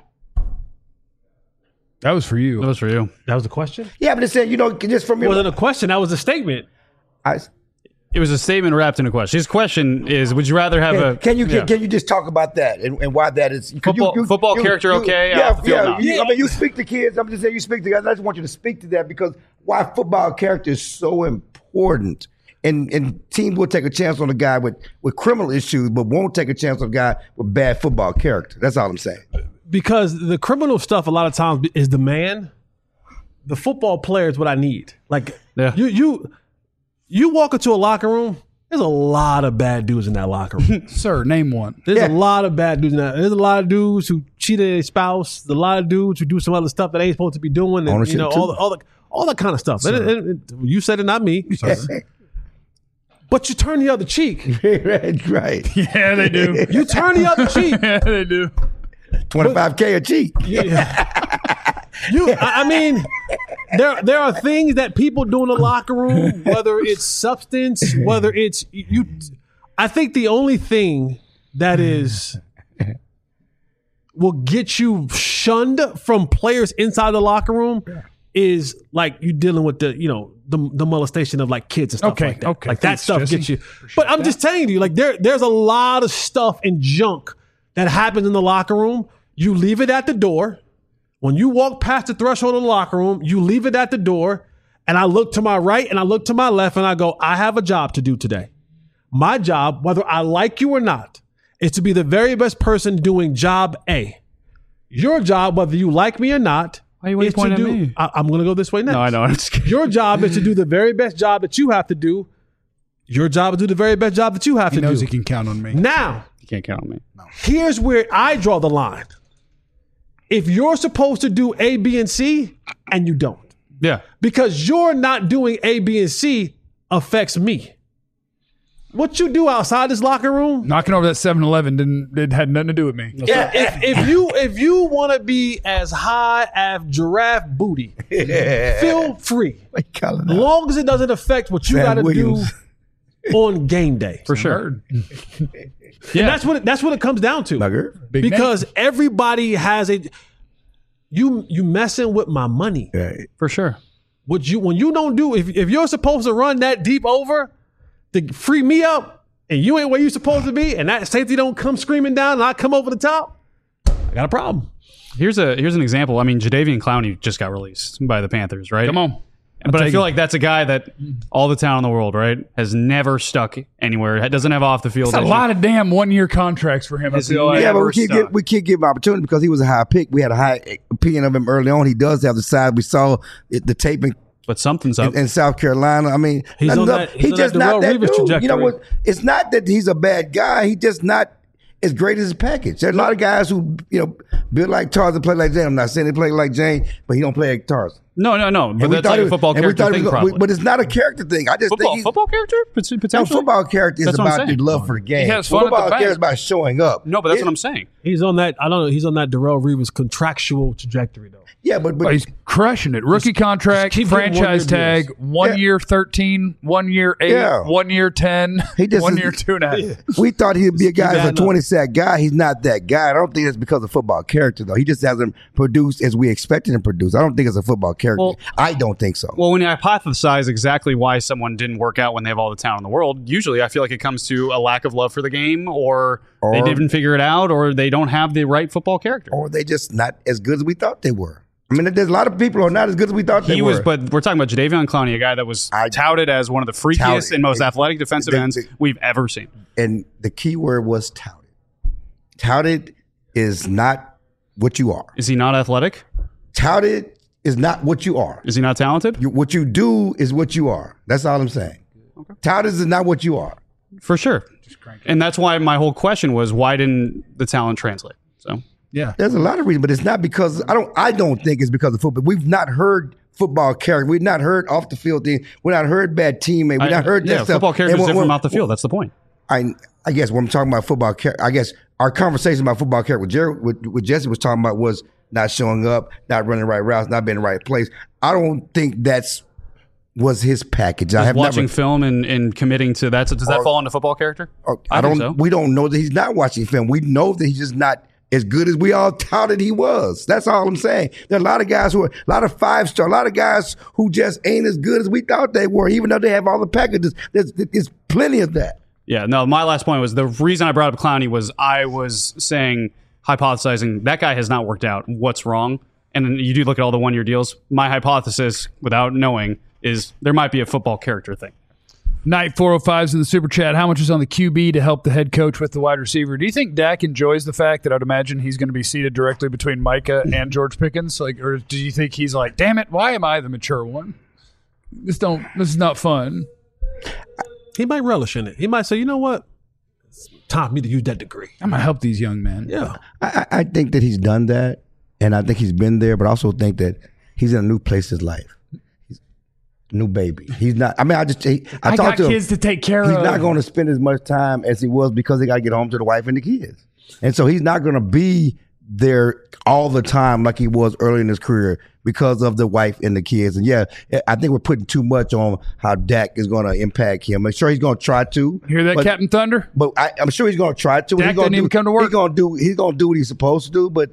That was for you. That was for you. That was the question? Yeah, but it said, just from It wasn't a question. That was a statement. It was a statement wrapped in a question. His question is: would you rather have Can you just talk about that and why that is football character? Okay, I mean, you speak to kids. I'm just saying you speak to guys. I just want you to speak to that because why football character is so important. And teams will take a chance on a guy with criminal issues, but won't take a chance on a guy with bad football character. That's all I'm saying. Because the criminal stuff a lot of times is the man. The football player is what I need. Like you walk into a locker room, there's a lot of bad dudes in that locker room. Sir, name one. There's a lot of bad dudes in that. There's a lot of dudes who cheated their spouse. There's a lot of dudes who do some other stuff that they ain't supposed to be doing. And, Ownership all that kind of stuff. You said it, not me. But you turn the other cheek. Right. Yeah, they do. You turn the other cheek. Yeah, they do. $25K a cheek. Yeah. I mean, there are things that people do in the locker room, whether it's substance, whether it's you. I think the only thing that will get you shunned from players inside the locker room is like you dealing with the molestation of like kids and stuff like that. Okay, like that thanks, stuff Jesse. gets you. But I'm just telling you, like there's a lot of stuff and junk that happens in the locker room. You leave it at the door. When you walk past the threshold of the locker room, you leave it at the door. And I look to my right and I look to my left and I go, I have a job to do today. My job, whether I like you or not, is to be the very best person doing job A. Your job, whether you like me or not, Why are you is to pointing do. at me? I'm going to go this way next. No, I know. I'm just kidding. Your job is to do the very best job that you have to do. Your job is to do the very best job that you have He to do. knows he can count on me. Now, You can't count on me. here's where I draw the line. If you're supposed to do A, B, and C, and you don't, Yeah. because you're not doing A, B, and C affects me. What you do outside this locker room, Knocking over that 7-Eleven it had nothing to do with me. if you want to be as high as giraffe booty, feel free. As long as it doesn't affect what you got to do on game day. For sure. And that's what it comes down to. Big Because everybody has you messing with my money. For sure. When you don't do if you're supposed to run that deep over to free me up and you ain't where you supposed to be and that safety don't come screaming down and I come over the top, I got a problem. Here's an example. I mean, Jadeveon Clowney just got released by the Panthers, right? Come on. But I feel like that's a guy that all the talent in the world, right, has never stuck anywhere. Doesn't have off the field. It's a lot of damn 1-year contracts for him. I feel like. Yeah, but we can't give him opportunity because he was a high pick. We had a high opinion of him early on. He does have the size. We saw the taping. But something's up. In South Carolina. I mean, he's on that dude. You know what? It's not that he's a bad guy. He's just not as great as his package. There's a lot of guys who, build like Tarzan, play like Jane. I'm not saying they play like Jane, but he don't play like Tarzan. No. But that's like a football character thing, probably. But it's not a character thing. I just think football character? Potentially? No, football character is about the love for the game. He has fun football at the character bank. is about showing up. No, but that's what I'm saying. He's on that. I don't know. He's on that Darrelle Revis contractual trajectory, though. Yeah, but he's crushing it. Rookie contract, keep getting franchise 1-year tag, 1 year 13, 1 year 8, Yeah. 1 year 10, He just 1 is- year 2.5. we thought he'd be a guy as a adding up. 20-sack guy. He's not that guy. I don't think it's because of football character, though. He just hasn't produced as we expected him to produce. I don't think it's a football character. Well- I don't think so. Well, when you hypothesize exactly why someone didn't work out when they have all the talent in the world, usually I feel like it comes to a lack of love for the game, or they didn't figure it out, or they don't have the right football character. Or they just not as good as we thought they were. I mean, there's a lot of people who are not as good as we thought they were. But we're talking about Jadeveon Clowney, a guy that was touted as one of the freakiest Touted. and most athletic defensive ends we've ever seen. And the key word was touted. Touted is not what you are. Is he not athletic? Touted is not what you are. Is he not talented? What you do is what you are. That's all I'm saying. Okay. Touted is not what you are. For sure. And that's why my whole question was, why didn't the talent translate? So Yeah. There's a lot of reasons, but it's not because I don't think it's because of football. We've not heard football character. We've not heard off the field things. We've not heard bad teammates. We've not heard that stuff. Football character is different from off the field. That's the point. I guess when I'm talking about football character, I guess our conversation about football character with Jerry, what Jesse was talking about was not showing up, not running the right routes, not being in the right place. I don't think was his package. I have watching film and committing to that. So does that fall into football character? I think don't. so. We don't know that he's not watching film. We know that he's just not as good as we all touted he was. That's all I'm saying. There are a lot of guys who are a lot of 5-star, a lot of guys who just ain't as good as we thought they were, even though they have all the packages. There's plenty of that. Yeah, no, my last point was the reason I brought up Clowney was I was saying, hypothesizing, that guy has not worked out. What's wrong? And then you do look at all the 1-year deals. My hypothesis, without knowing, is there might be a football character thing. Knight 405's in the super chat. How much is on the QB to help the head coach with the wide receiver? Do you think Dak enjoys the fact that I'd imagine he's going to be seated directly between Micah and George Pickens? Or do you think he's like, damn it, why am I the mature one? This is not fun. He might relish in it. He might say, you know what? It's time for me to use that degree. I'm going to help these young men. Yeah. I think that he's done that, and I think he's been there, but I also think that he's in a new place in his life. He's a new baby. He's not. I mean, I got talked to him. kids to take care of. He's not going to spend as much time as he was because he got to get home to the wife and the kids, and so he's not going to be there all the time like he was early in his career because of the wife and the kids. And yeah, I think we're putting too much on how Dak is going to impact him. I'm sure he's going to try to. Hear that, Captain Thunder? But I'm sure he's going to try to. Dak didn't even come to work. He's going to do what he's supposed to do. But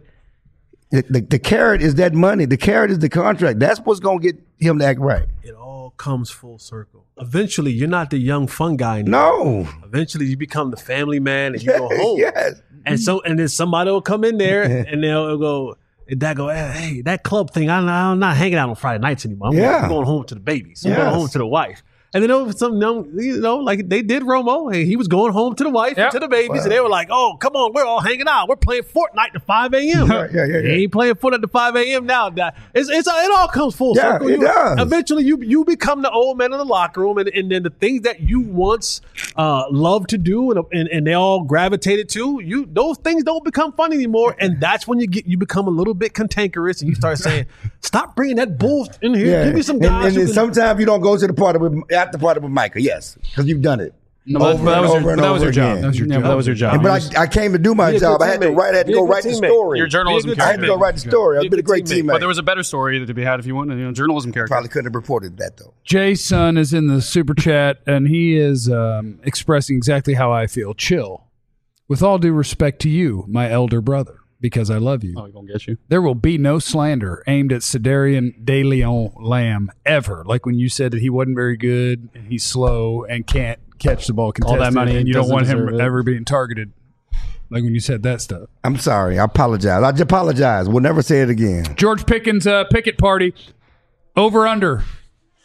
the carrot is that money. The carrot is the contract. That's what's going to get him to act right. It all comes full circle. Eventually, you're not the young fun guy anymore. No. Eventually, you become the family man and you go home. Yes. And then somebody will come in there and they'll go, and Dad go, hey, that club thing, I'm not hanging out on Friday nights anymore. I'm going home to the babies. I'm going home to the wife. And then over some young, like they did Romo, and he was going home to the wife and to the babies, and they were like, "Oh, come on, we're all hanging out. We're playing Fortnite to 5 a.m. Yeah. He ain't playing Fortnite to 5 a.m. now. It all comes full circle. It does. Eventually, you become the old man in the locker room, and then the things that you once loved to do, and they all gravitated to, those things don't become fun anymore, and that's when you become a little bit cantankerous, and you start saying, "Stop bringing that bull in here. Yeah. Give me some guys." And then sometimes you don't go to the party after party with Micah. Yes, because you've done it. That was your job. That was your job. But I came to do my job. I had to go write the story. Your journalism I had character. to go write the story. I've been a great teammate. But there was a better story to be had if you wanted, journalism character. Probably couldn't have reported that though. Jason is in the super chat, and he is expressing exactly how I feel. Chill. With all due respect to you, my elder brother, because I love you. Oh, he gonna get you. There will be no slander aimed at Cedarian De Leon Lamb ever. Like when you said that he wasn't very good and he's slow and can't catch the ball contested. All that money and you don't doesn't want him deserve it. ever being targeted. Like when you said that stuff. I'm sorry. I apologize. I just apologize. We'll never say it again. George Pickens picket party over under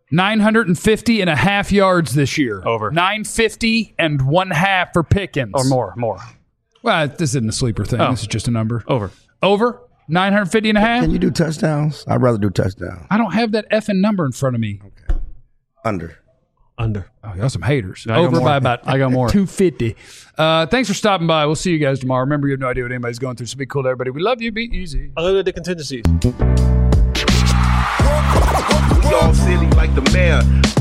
950 and a half yards this year. Over. 950 and 1/2 for Pickens. Or more. Well, this isn't a sleeper thing. This is just a number. Over. 950 and a half? Can you do touchdowns? I'd rather do touchdowns. I don't have that effing number in front of me. Under. Oh, y'all some haters. I got Over more. by about I got more. 250. Thanks for stopping by. We'll see you guys tomorrow. Remember, you have no idea what anybody's going through, so be cool to everybody. We love you. Be easy. I look at the contingencies. We all silly like the mayor.